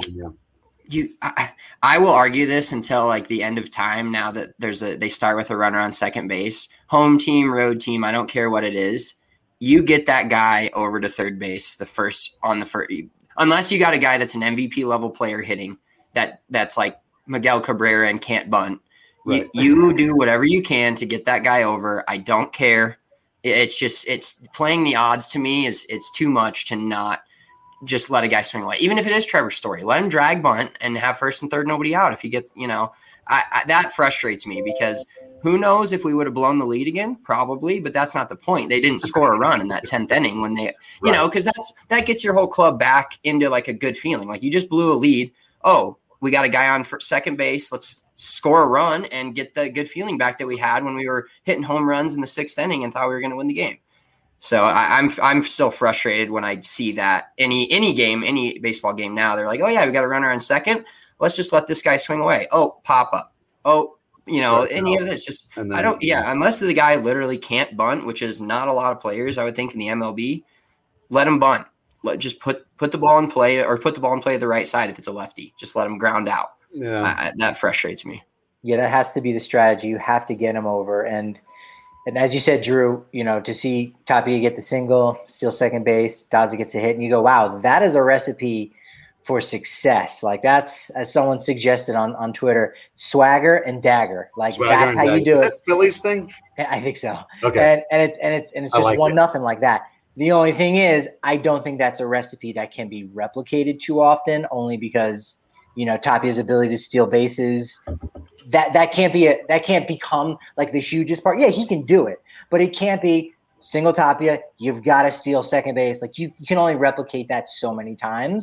I will argue this until like the end of time. Now that they start with a runner on second base, home team, road team, I don't care what it is. You get that guy over to third base unless you got a guy that's an MVP level player hitting that's like Miguel Cabrera and can't bunt. Right. You do whatever you can to get that guy over. I don't care. It's playing the odds to me it's too much to not just let a guy swing away. Even if it is Trevor Story, let him drag bunt and have first and third, nobody out. If he gets, that frustrates me, because who knows if we would have blown the lead again? Probably, but that's not the point. They didn't score a run in that 10th inning when they, because that gets your whole club back into like a good feeling. Like, you just blew a lead. Oh, we got a guy on for second base. Let's score a run and get the good feeling back that we had when we were hitting home runs in the 6th inning and thought we were going to win the game. So I'm still frustrated when I see that any baseball game now, they're like, oh yeah, we got a runner on second. Let's just let this guy swing away. Oh, pop up. Oh, any of this just, unless the guy literally can't bunt, which is not a lot of players, I would think, in the MLB, let him bunt. Just put the ball in play, or put the ball in play at the right side. If it's a lefty, just let him ground out. Yeah. That frustrates me. Yeah. That has to be the strategy. You have to get him over. And as you said, Drew, to see Tapia get the single, steal second base, Daza gets a hit, and you go, wow, that is a recipe for success. Like, that's, as someone suggested on Twitter, swagger and dagger. Like, that's how you do it. Is that Phillies thing? I think so. Okay. And it's just like 1-0 like that. The only thing is, I don't think that's a recipe that can be replicated too often, only because, Tapia's ability to steal bases, that can't become like the hugest part. Yeah, he can do it, but it can't be single Tapia. You've got to steal second base. Like, you can only replicate that so many times.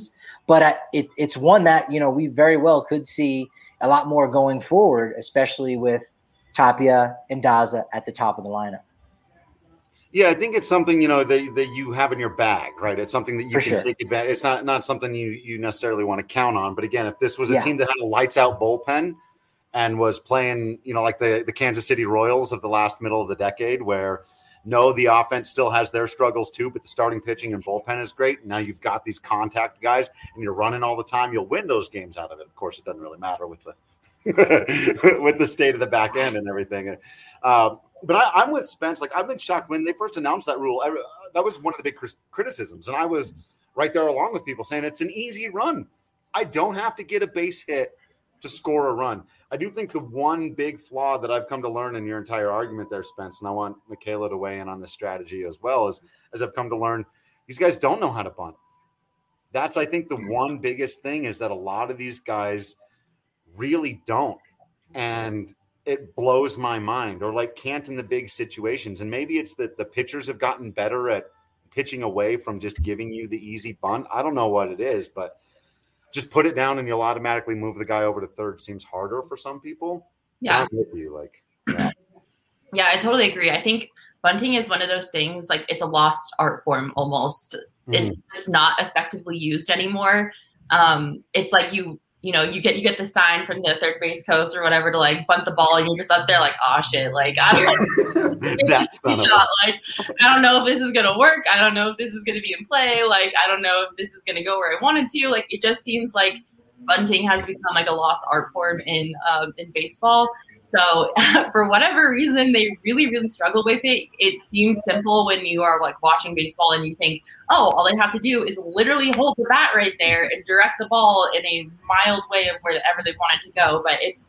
But it's one that, we very well could see a lot more going forward, especially with Tapia and Daza at the top of the lineup. Yeah, I think it's something, that you have in your bag, right? It's something that you can take advantage. It's not something you necessarily want to count on. But again, if this was a team that had a lights out bullpen and was playing, like the Kansas City Royals of the last middle of the decade, where the offense still has their struggles too, but the starting pitching and bullpen is great. Now you've got these contact guys and you're running all the time. You'll win those games out of it. Of course, it doesn't really matter with the with the state of the back end and everything. But I'm with Spence. Like, I've been shocked when they first announced that rule. That was one of the big criticisms. And I was right there along with people saying it's an easy run. I don't have to get a base hit to score a run. I do think the one big flaw that I've come to learn in your entire argument there, Spence, and I want Michaela to weigh in on this strategy as well, as I've come to learn, these guys don't know how to bunt. That's, I think, the one biggest thing is that a lot of these guys really don't. And it blows my mind, or like can't in the big situations. And maybe it's that the pitchers have gotten better at pitching away from just giving you the easy bunt. I don't know what it is, but just put it down and you'll automatically move the guy over to third seems harder for some people. Yeah. I'm with you, Yeah, I totally agree. I think bunting is one of those things, like it's a lost art form almost. It's just not effectively used anymore. It's like you get the sign from the third base coach or whatever to like bunt the ball, and you're just up there like, oh shit, like I don't know. That's like I don't know if this is gonna work. I don't know if this is gonna be in play. Like I don't know if this is gonna go where I wanted to. Like it just seems like bunting has become like a lost art form in baseball. So for whatever reason, they really, really struggle with it. It seems simple when you are like watching baseball and you think, oh, all they have to do is literally hold the bat right there and direct the ball in a mild way of wherever they want it to go. But it's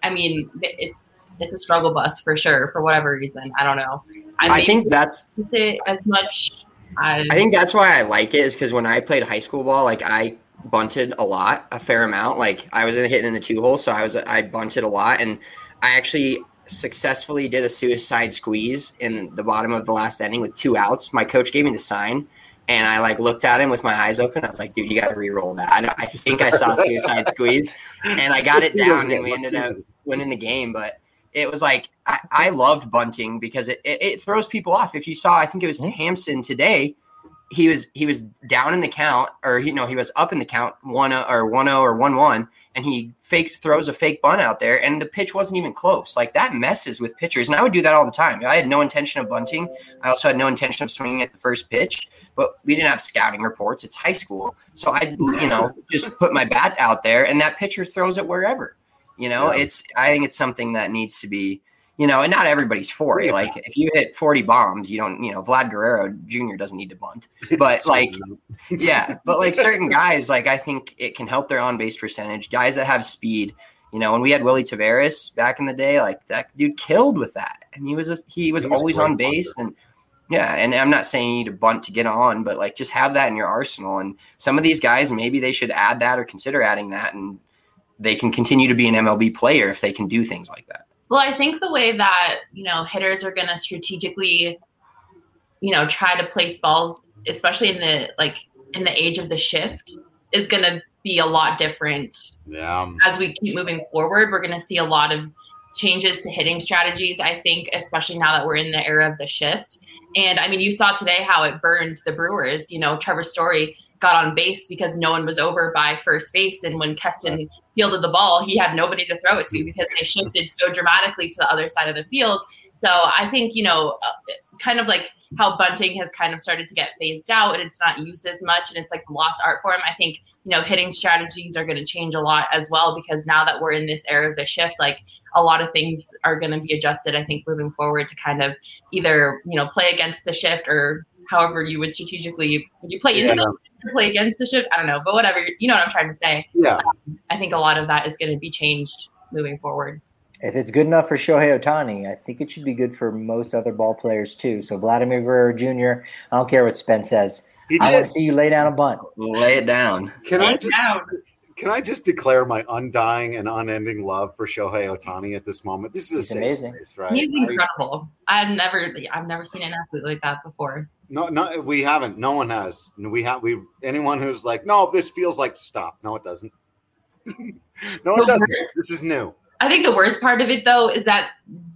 a struggle bus for sure, for whatever reason. I don't know. I think that's it as much. I think that's why I like it, is because when I played high school ball, like I bunted a fair amount. Like I was hitting in the 2-hole, so I bunted a lot, and I actually successfully did a suicide squeeze in the bottom of the last inning with 2 outs. My coach gave me the sign, and I like looked at him with my eyes open. I was like, dude, you got to re-roll that. I think I saw a suicide squeeze, and I got it down, and we ended up winning the game. But it was like I loved bunting because it throws people off. If you saw, I think it was Hampson today, he was down in the count, or he was up in the count 1-0 or 1-1, and he throws a fake bunt out there, and the pitch wasn't even close. Like that messes with pitchers, and I would do that all the time. I had no intention of bunting. I also had no intention of swinging at the first pitch, but we didn't have scouting reports. It's high school, so I just put my bat out there, and that pitcher throws it wherever. I think it's something that needs to be. And not everybody's for it. Like if you hit 40 bombs, you don't, Vlad Guerrero Jr. doesn't need to bunt, but like, but like certain guys, like I think it can help their on base percentage. Guys that have speed, when we had Willie Taveras back in the day, like that dude killed with that. And he was always on base. And and I'm not saying you need to bunt to get on, but like just have that in your arsenal. And some of these guys, maybe they should add that or consider adding that, and they can continue to be an MLB player if they can do things like that. Well, I think the way that, hitters are going to strategically, try to place balls, especially in the age of the shift, is going to be a lot different. Yeah. As we keep moving forward, we're going to see a lot of changes to hitting strategies, I think, especially now that we're in the era of the shift. And I mean, you saw today how it burned the Brewers. Trevor Story got on base because no one was over by first base. And when Keston fielded the ball, he had nobody to throw it to because they shifted so dramatically to the other side of the field. So I think, kind of like how bunting has kind of started to get phased out and it's not used as much and it's like the lost art form. I think, hitting strategies are going to change a lot as well, because now that we're in this era of the shift, like a lot of things are going to be adjusted, I think, moving forward to kind of either, play against the shift or however you would strategically, would you play into the play against the shift? I don't know, but whatever, you know what I'm trying to say. Yeah. I think a lot of that is going to be changed moving forward. If it's good enough for Shohei Ohtani, I think it should be good for most other ball players too. So Vladimir Guerrero Jr., I don't care what Spence says. I want to see you lay down a bunt. Lay it down. Can I just declare my undying and unending love for Shohei Ohtani at this moment? This is amazing, space, right? He's incredible. I've never seen an athlete like that before. No, we haven't. No one has. Anyone who's like, no, this feels like stop. No, it doesn't. No, it doesn't. This is new. I think the worst part of it, though, is that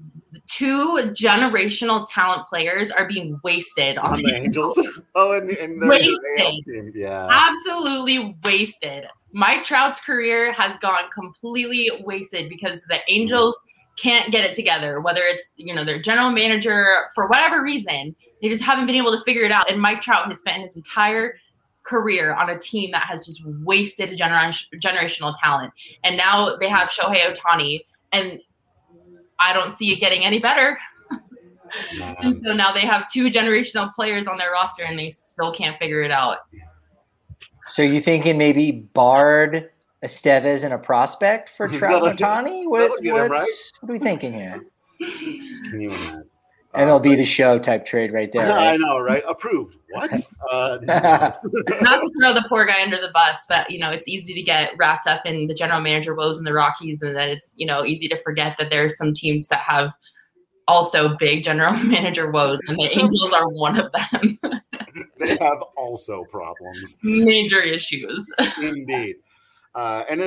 2 generational talent players are being wasted on the Angels. Oh, and wasted. Yeah, absolutely wasted. Mike Trout's career has gone completely wasted because the Angels can't get it together. Whether it's their general manager, for whatever reason, they just haven't been able to figure it out. And Mike Trout has spent his entire career on a team that has just wasted generational talent. And now they have Shohei Ohtani, and I don't see it getting any better. And so now they have 2 generational players on their roster, and they still can't figure it out. So you thinking maybe Bard, Estevez, and a prospect for Trout and Ohtani? What are we thinking here? Can you imagine? MLB The Show type trade right there. Right? I know, right? Approved. What? Not to throw the poor guy under the bus, but it's easy to get wrapped up in the general manager woes in the Rockies, and then it's easy to forget that there's some teams that have also big general manager woes, and the Angels are one of them. They have also problems, major issues. Indeed. And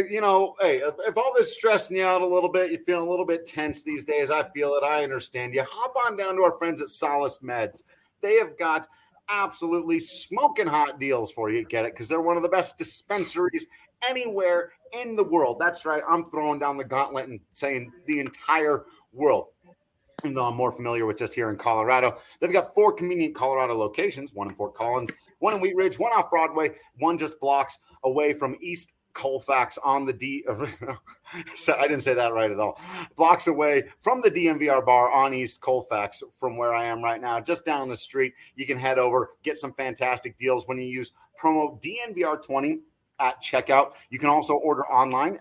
if all this stressing you out a little bit, you're feeling a little bit tense these days, I feel it. I understand you. Hop on down to our friends at Solace Meds. They have got absolutely smoking hot deals for you. Get it? Because they're one of the best dispensaries anywhere in the world. That's right. I'm throwing down the gauntlet and saying the entire world. Even though I'm more familiar with just here in Colorado. They've got 4 convenient Colorado locations, 1 in Fort Collins, 1 in Wheat Ridge, 1 off Broadway, 1 just blocks away from East Colfax on the so I didn't say that right at all. Blocks away from the DNVR bar on East Colfax from where I am right now, just down the street. You can head over, get some fantastic deals when you use promo DNVR20 at checkout. You can also order online,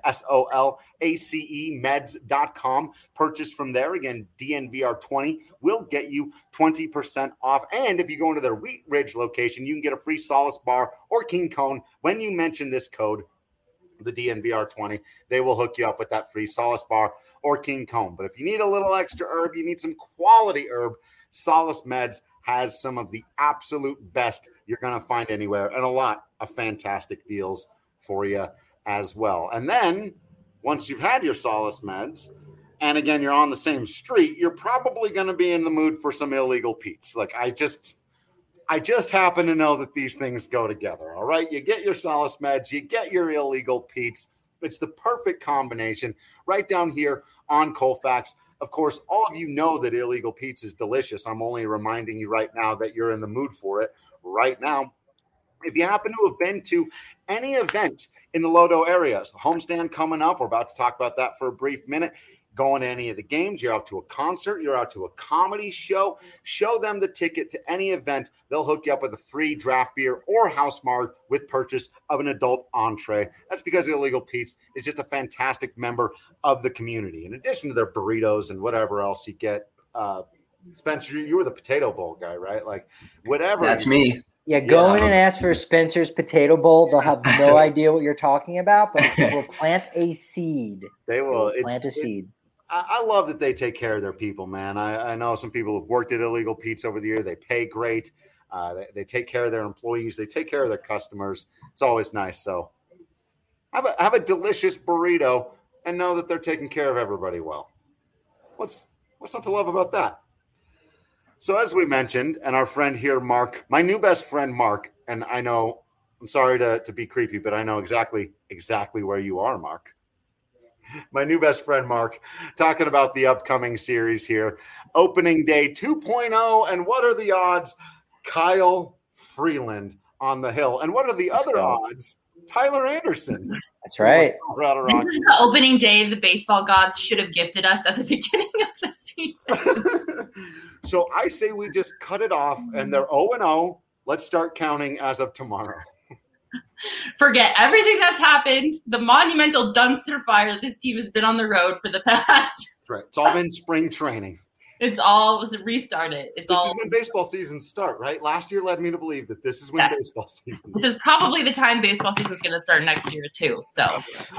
SOLACE-meds.com. Purchase from there. Again, DNVR20 will get you 20% off. And if you go into their Wheat Ridge location, you can get a free Solace bar or King Cone when you mention this code, the DNVR20. They will hook you up with that free Solace bar or King Cone. But if you need a little extra herb, you need some quality herb, Solace Meds has some of the absolute best you're going to find anywhere, and a lot of fantastic deals for you as well. And then once you've had your Solace Meds, and again, you're on the same street, you're probably going to be in the mood for some illegal Pete's. Like I just happen to know that these things go together. All right. You get your Solace Meds, you get your illegal Pete's. It's the perfect combination right down here on Colfax. Of course, all of you know that illegal Pete's is delicious. I'm only reminding you right now that you're in the mood for it right now. If you happen to have been to any event in the Lodo area, homestand coming up, we're about to talk about that for a brief minute. Going to any of the games, you're out to a concert, you're out to a comedy show, show them the ticket to any event. They'll hook you up with a free draft beer or house marg with purchase of an adult entree. That's because Illegal Pete's is just a fantastic member of the community. In addition to their burritos and whatever else you get, Spencer, you were the potato bowl guy, right? Like whatever. That's me. Yeah, go in and ask for Spencer's Potato Bowl. They'll have no idea what you're talking about, but they will plant a seed. They will plant a seed. I love that they take care of their people, man. I know some people have worked at Illegal Pete's over the year. They pay great. They take care of their employees. They take care of their customers. It's always nice. So have a delicious burrito and know that they're taking care of everybody well. What's not to love about that? So as we mentioned, and our friend here, Mark, my new best friend, Mark, and I know, I'm sorry to be creepy, but I know exactly where you are, Mark. My new best friend, Mark, talking about the upcoming series here. Opening day 2.0, and what are the odds? Kyle Freeland on the hill. And what are the other odds? Tyler Anderson. That's right. This is the opening day the baseball gods should have gifted us at the beginning of the season. So I say we just cut it off, and they're 0-0. Let's start counting as of tomorrow. Forget everything that's happened, the monumental dumpster fire this team has been on the road for the past. Right. It's all been spring training. It's all was restarted. This is when baseball seasons start, right? Last year led me to believe that this is when baseball season. This is probably the time baseball season is going to start next year too. So,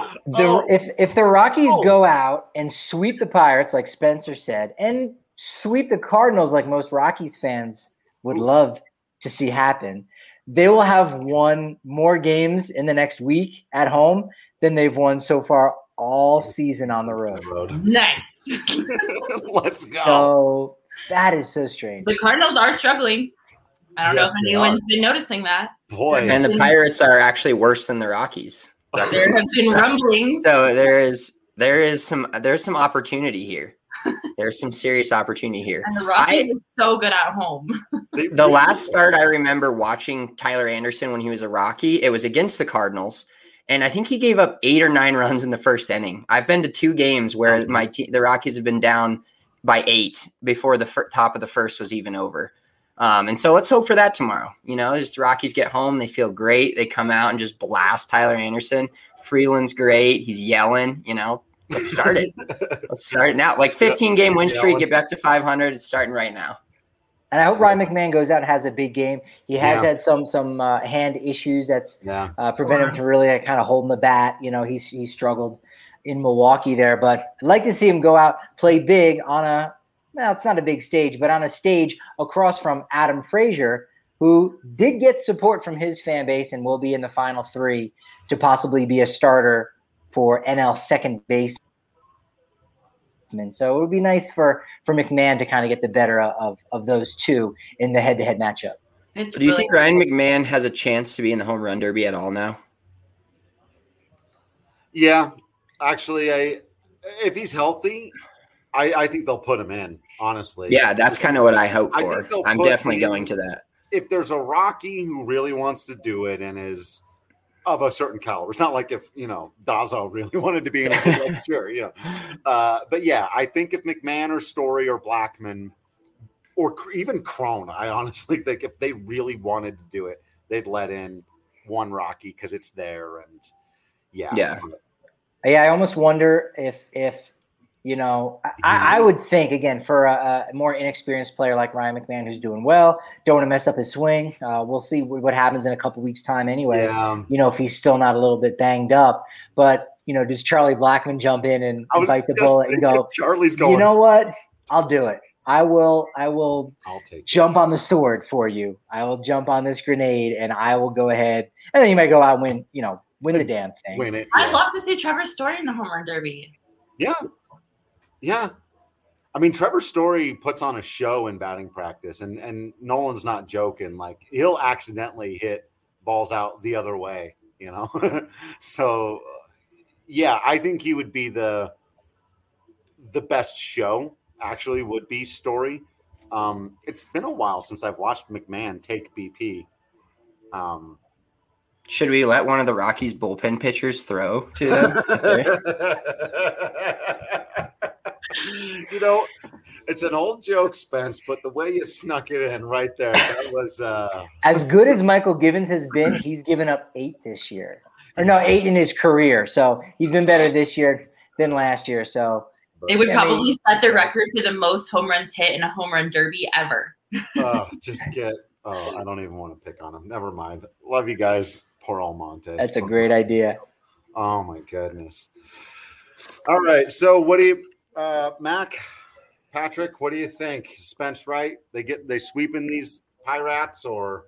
if the Rockies go out and sweep the Pirates, like Spencer said, and sweep the Cardinals, like most Rockies fans would love to see happen. They will have won more games in the next week at home than they've won so far all season on the road. Nice. Let's go. So that is so strange. The Cardinals are struggling. I don't know if anyone's been noticing that. Boy. And the Pirates are actually worse than the Rockies. There have been rumblings. So there's some opportunity here. There's some serious opportunity here. And the Rockies are so good at home. The last start I remember watching Tyler Anderson when he was a Rocky, it was against the Cardinals. And I think he gave up 8 or 9 runs in the first inning. I've been to 2 games where the Rockies have been down by 8 before the top of the first was even over. And so let's hope for that tomorrow. Just the Rockies get home. They feel great. They come out and just blast Tyler Anderson. Freeland's great. He's yelling, Let's start it. Let's start it now. 15-game win streak, get back to 500. It's starting right now. And I hope Ryan McMahon goes out and has a big game. He has had some hand issues that's prevented him from really kind of holding the bat. He's struggled in Milwaukee there. But I'd like to see him go out, play big on it's not a big stage, but on a stage across from Adam Frazier, who did get support from his fan base and will be in the final 3 to possibly be a starter for NL second base. So it would be nice for McMahon to kind of get the better of those two in the head-to-head matchup. Do you think Ryan McMahon has a chance to be in the home run derby at all now? Yeah, actually, if he's healthy, I think they'll put him in, honestly. Yeah, that's kind of what I hope for. I'm definitely going to that. If there's a Rocky who really wants to do it and is of a certain caliber. It's not like if, Dazo really wanted to be in a sure, but yeah, I think if McMahon or Story or Blackman or even Cron, I honestly think if they really wanted to do it, they'd let in one Rocky because it's there. And yeah. I almost wonder if I would think, again, for a more inexperienced player like Ryan McMahon who's doing well, don't want to mess up his swing. We'll see what happens in a couple weeks' time anyway, if he's still not a little bit banged up. But, does Charlie Blackman jump in and bite the bullet and go, Charlie's going, you know what? I'll do it. I'll take jump on the sword for you. I will jump on this grenade and I will go ahead. And then you might go out and win the damn thing. Win it. I'd love to see Trevor Story in the home run derby. Yeah. I mean, Trevor Story puts on a show in batting practice, and Nolan's not joking. He'll accidentally hit balls out the other way, So, I think he would be the best show, actually, would be Story. It's been a while since I've watched McMahon take BP. Should we let one of the Rockies bullpen pitchers throw to them? It's an old joke, Spence, but the way you snuck it in right there, that was as good as Michael Givens has been. He's given up 8 this year, 8 in his career. So he's been better this year than last year. So they would probably set the record for the most home runs hit in a home run derby ever. I don't even want to pick on him. Never mind. Love you guys. Poor Almonte. That's a great idea. Oh my goodness. All right. So what do you? Patrick, what do you think? Spence, right? They sweeping these Pirates or?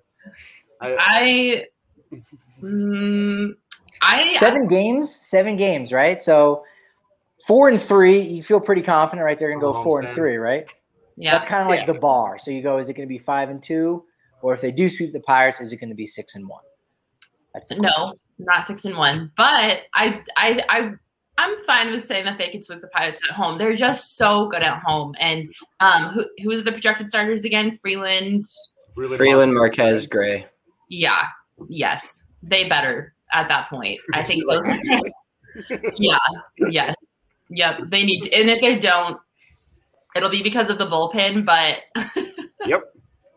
7 games, right? So 4-3, you feel pretty confident, right? They're gonna go 4-3, right? Yeah, that's kind of like the bar. So you go, is it going to be 5-2, or if they do sweep the Pirates, is it going to be 6-1? No, not 6-1. But I'm fine with saying that they can sweep the Pirates at home. They're just so good at home. And who is the projected starters again? Freeland, Marquez, Gray. Yeah. Yes, they better at that point. I think so. Yeah. Yes. Yep. They need, and if they don't, it'll be because of the bullpen. But Yep.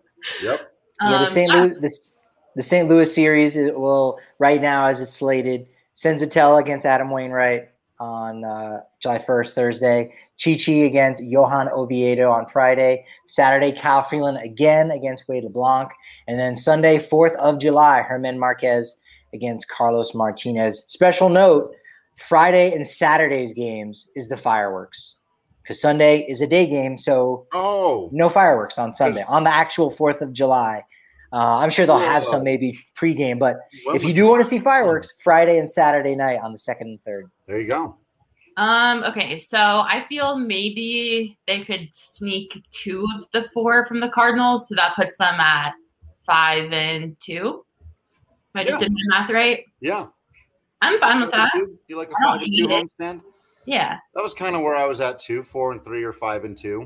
The St. Louis series will right now, as it's slated, Senzatella against Adam Wainwright on July 1st, Thursday. Chi against Johan Oviedo on Friday. Saturday, Kyle Freeland again against Wade LeBlanc. And then Sunday, 4th of July, Herman Marquez against Carlos Martinez. Special note, Friday and Saturday's games is the fireworks. because Sunday is a day game, so no fireworks on Sunday, on the actual 4th of July. I'm sure they'll have some maybe pregame, but if you do want to see fireworks, Friday and Saturday night on the 2nd and 3rd. There you go. Okay, so I feel maybe they could sneak 2 of the 4 from the Cardinals, so that puts them at 5-2. If I just did my math right. Yeah, I'm fine with that. You like a 5-2 homestand? Yeah, that was kind of where I was at too. 4-3 or 5-2.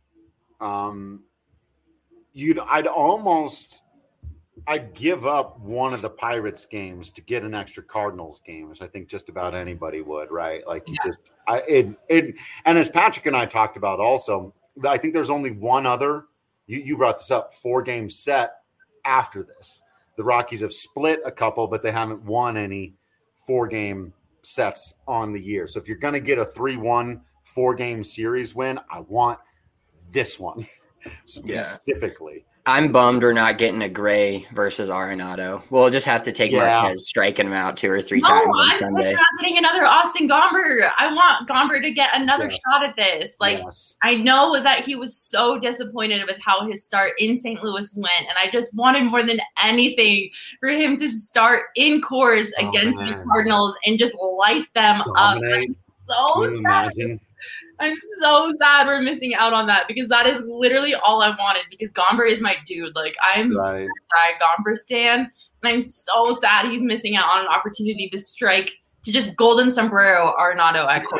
I'd give up one of the Pirates games to get an extra Cardinals game, which I think just about anybody would, right? Like and as Patrick and I talked about also, I think there's only one other, you brought this up, 4-game set after this. The Rockies have split a couple, but they haven't won any 4-game sets on the year. So if you're going to get a 3-1 4-game series win, I want this one specifically. I'm bummed we're not getting a Gray versus Arenado. We'll just have to take Marquez striking him out 2 or 3 times on Sunday. I'm not getting another Austin Gomber. I want Gomber to get another shot at this. I know that he was so disappointed with how his start in St. Louis went, and I just wanted more than anything for him to start in Coors against the Cardinals and just light them up. I'm so sad. I'm so sad we're missing out on that because that is literally all I wanted because Gomber is my dude. Like, I'm a Gomber stan, and I'm so sad he's missing out on an opportunity to strike, to just golden sombrero Arenado at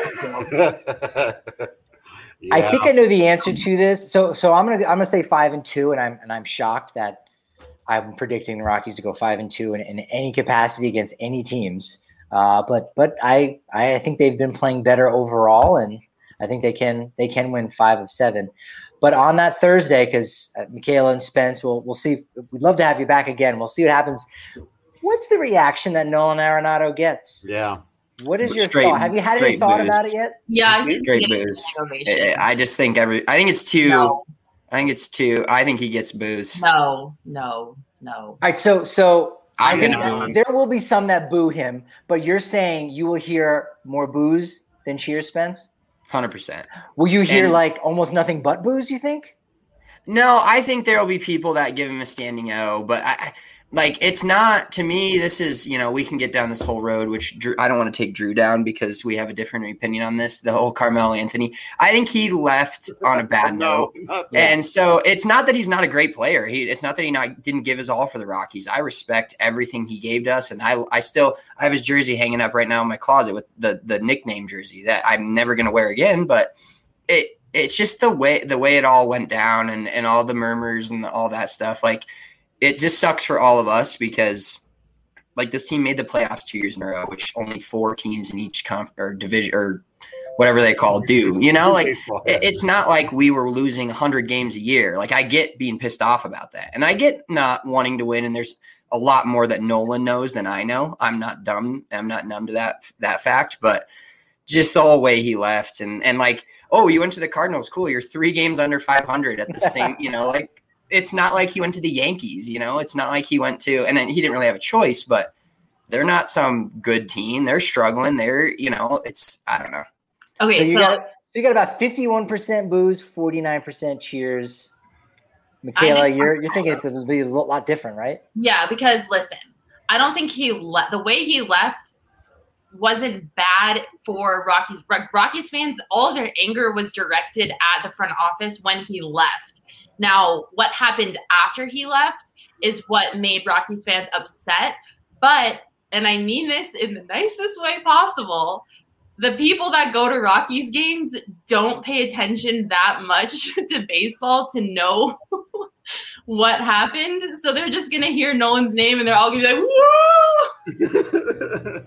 Coors. I think I know the answer to this. So I'm gonna say 5-2, and I'm shocked that I'm predicting the Rockies to go 5-2 in any capacity against any teams. But I think they've been playing better overall, and I think they can win 5 of 7. But on that Thursday, because Michaela and Spence, we'll see. We'd love to have you back again. We'll see what happens. What's the reaction that Nolan Arenado gets? Yeah. What is your thought? Have you had any thought about it yet? Yeah, he's straight booze. I just think I think it's 2. No. I think it's 2. I think he gets booze. No. All right, so I think there will be some that boo him, but you're saying you will hear more boos than cheers, Spence? 100%. Will you hear almost nothing but boos, you think? No, I think there will be people that give him a standing O, but it's not, to me, this is, we can get down this whole road, which I don't want to take Drew down because we have a different opinion on this, the whole Carmelo Anthony. I think he left on a bad note. And so it's not that he's not a great player. It's not that he didn't give his all for the Rockies. I respect everything he gave to us. And I have his jersey hanging up right now in my closet with the nickname jersey that I'm never going to wear again. But it's just the way it all went down and all the murmurs and all that stuff. It just sucks for all of us because, this team made the playoffs 2 years in a row, which only 4 teams in each or division or whatever they call do. It's not like we were losing 100 games a year. I get being pissed off about that, and I get not wanting to win. And there's a lot more that Nolan knows than I know. I'm not dumb. I'm not numb to that fact, but just the whole way he left and you went to the Cardinals, cool. You're 3 games under 500 at the same, It's not like he went to the Yankees, It's not like he went to – and then he didn't really have a choice, but they're not some good team. They're struggling. They're, it's – I don't know. Okay, so you got about 51% boos, 49% cheers. Michaela, you're thinking it'll be a lot different, right? Yeah, because, listen, I don't think the way he left wasn't bad for Rockies. Rockies fans, all of their anger was directed at the front office when he left. Now, what happened after he left is what made Rockies fans upset. But, and I mean this in the nicest way possible, the people that go to Rockies games don't pay attention that much to baseball to know what happened. So they're just going to hear Nolan's name and they're all going to be like, whoa!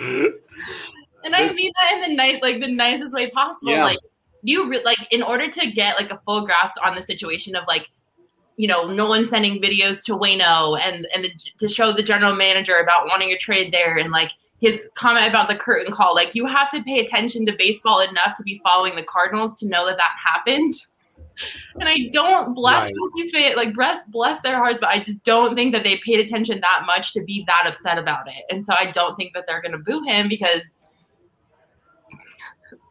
And I mean that in the nicest way possible. Yeah. In order to get a full grasp on the situation of Nolan sending videos to Waino and to show the general manager about wanting a trade there and his comment about the curtain call, you have to pay attention to baseball enough to be following the Cardinals to know that happened. And I don't bless Rockies fans, bless their hearts, but I just don't think that they paid attention that much to be that upset about it. And so I don't think that they're going to boo him because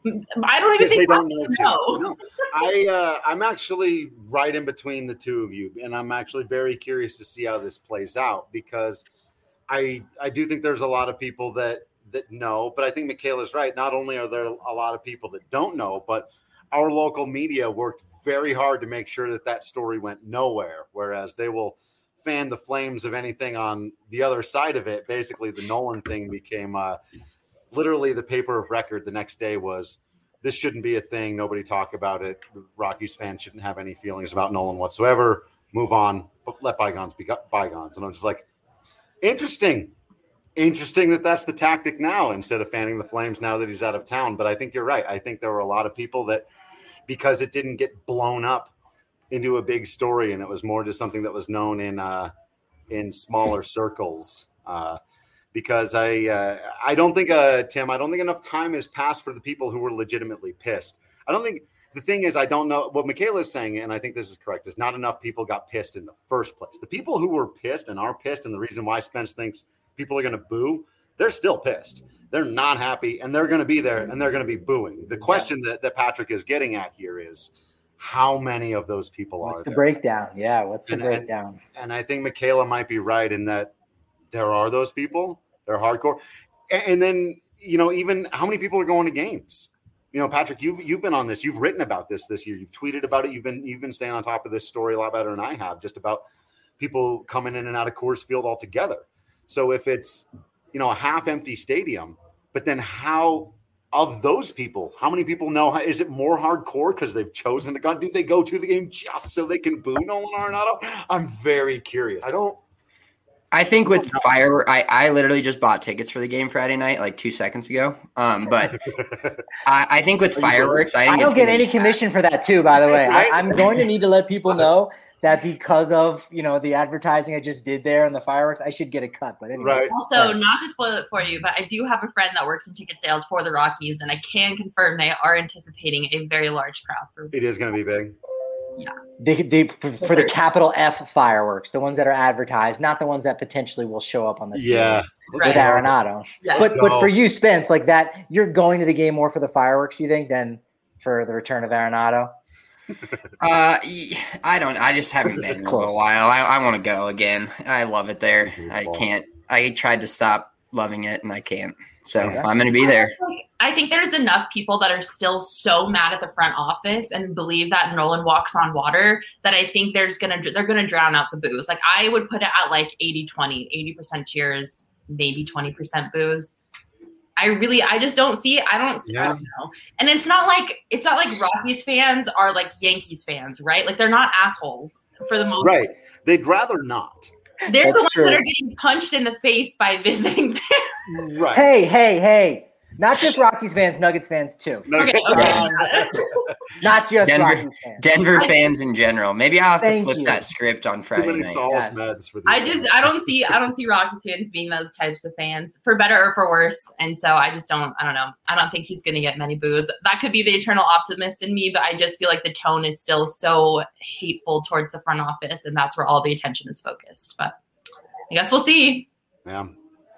I don't even think they don't know. No. I'm actually right in between the two of you, and I'm actually very curious to see how this plays out because I do think there's a lot of people that know, but I think Michaela's right. Not only are there a lot of people that don't know, but our local media worked very hard to make sure that story went nowhere, whereas they will fan the flames of anything on the other side of it. Basically, the Nolan thing became literally the paper of record the next day was, this shouldn't be a thing. Nobody talk about it. Rockies fans shouldn't have any feelings about Nolan whatsoever. Move on, but let bygones be bygones. And I'm just like, interesting that that's the tactic now instead of fanning the flames now that he's out of town. But I think you're right. I think there were a lot of people that, because it didn't get blown up into a big story and it was more just something that was known in smaller circles. Because I don't think, Tim, I don't think enough time has passed for the people who were legitimately pissed. I don't think the thing is, I don't know what Michaela is saying, and I think this is correct, is not enough people got pissed in the first place. The people who were pissed and are pissed, and the reason why Spence thinks people are going to boo, they're still pissed. They're not happy, and they're going to be there, and they're going to be booing. The question that Patrick is getting at here is, how many of those people are there? What's the breakdown? Yeah, what's the breakdown? And I think Michaela might be right in that there are those people. They're hardcore. And then, even how many people are going to games? Patrick, you've been on this. You've written about this year. You've tweeted about it. You've been staying on top of this story a lot better than I have, just about people coming in and out of Coors Field altogether. So if it's, a half empty stadium, but then how of those people, how many people know? Is it more hardcore because they've chosen to go? Do they go to the game just so they can boo Nolan Arenado? I'm very curious. I think with fireworks, I literally just bought tickets for the game Friday night, like 2 seconds ago. But I think with fireworks, I don't get any commission for that too, by the way. I'm going to need to let people know that because of, the advertising I just did there and the fireworks, I should get a cut. But anyway. Right. Also, not to spoil it for you, but I do have a friend that works in ticket sales for the Rockies, and I can confirm they are anticipating a very large crowd. It is going to be big. Yeah. They for the capital F fireworks, the ones that are advertised, not the ones that potentially will show up on the field with Arenado. Yes. But for you, Spence, like that, you're going to the game more for the fireworks, you think, than for the return of Arenado? I don't. I just haven't been in a little while. I want to go again. I love it there. I can't. I tried to stop loving it, and I can't. So I'm going to be there. I think there's enough people that are still so mad at the front office and believe that Nolan walks on water that I think they're going to drown out the boos. Like I would put it at like 80-20, 80% cheers, maybe 20% boos. I just don't see. I don't know. And it's not like Rockies fans are like Yankees fans, right? Like they're not assholes for the most part. Right. They'd rather not. They're the ones that are getting punched in the face by visiting fans. Right. Hey. Not just Rockies fans, Nuggets fans too. Okay. Not just Rockies fans. Denver fans in general. Maybe I'll have to flip that script on Friday night. Meds for these I don't see Rockies fans being those types of fans, for better or for worse. And so I don't know. I don't think he's going to get many boos. That could be the eternal optimist in me, but I just feel like the tone is still so hateful towards the front office, and that's where all the attention is focused. But I guess we'll see. Yeah.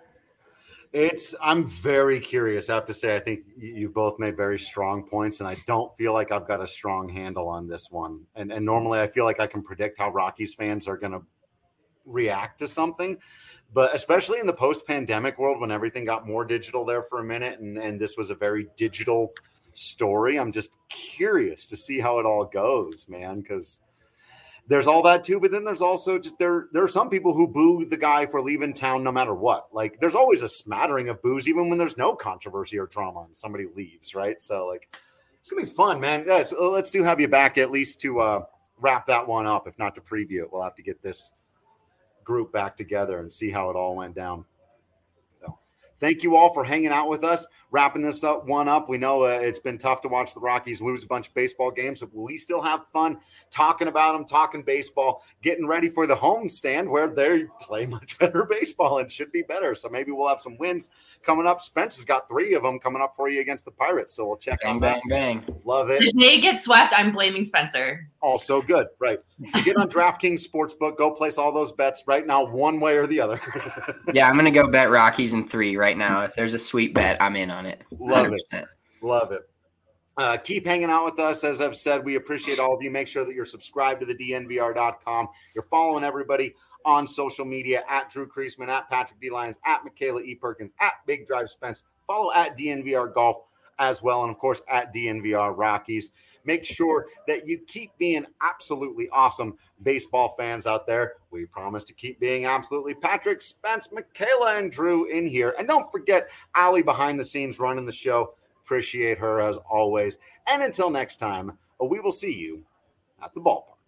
I'm very curious. I have to say, I think you've both made very strong points, and I don't feel like I've got a strong handle on this one. And normally I feel like I can predict how Rockies fans are going to react to something, but especially in the post-pandemic world when everything got more digital there for a minute, and this was a very digital story. I'm just curious to see how it all goes, man, because there's all that too, but then there's also just there are some people who boo the guy for leaving town no matter what. Like there's always a smattering of boos even when there's no controversy or drama and somebody leaves, right? So like it's gonna be fun, man. Yeah, let's have you back at least to wrap that one up, if not to preview it. We'll have to get this group back together and see how it all went down. So thank you all for hanging out with us. Wrapping this up. We know it's been tough to watch the Rockies lose a bunch of baseball games, but we still have fun talking about them, talking baseball, getting ready for the homestand where they play much better baseball and should be better. So maybe we'll have some wins coming up. Spence has got 3 of them coming up for you against the Pirates, so we'll check on that. Bang. Love it. If they get swept, I'm blaming Spencer. Also good, right? You get on DraftKings Sportsbook, go place all those bets right now, one way or the other. Yeah, I'm going to go bet Rockies in 3 right now. If there's a sweet bet, I'm in on it. 100%. Love it. Keep hanging out with us. As I've said, we appreciate all of you. Make sure that you're subscribed to the DNVR.com. You're following everybody on social media at Drew Creasman, at Patrick D. Lyons, at Michaela E. Perkins, at Big Drive Spence. Follow at DNVR Golf as well, and of course at DNVR Rockies. Make sure that you keep being absolutely awesome baseball fans out there. We promise to keep being absolutely Patrick, Spence, Michaela, and Drew in here. And don't forget Allie behind the scenes running the show. Appreciate her as always. And until next time, we will see you at the ballpark.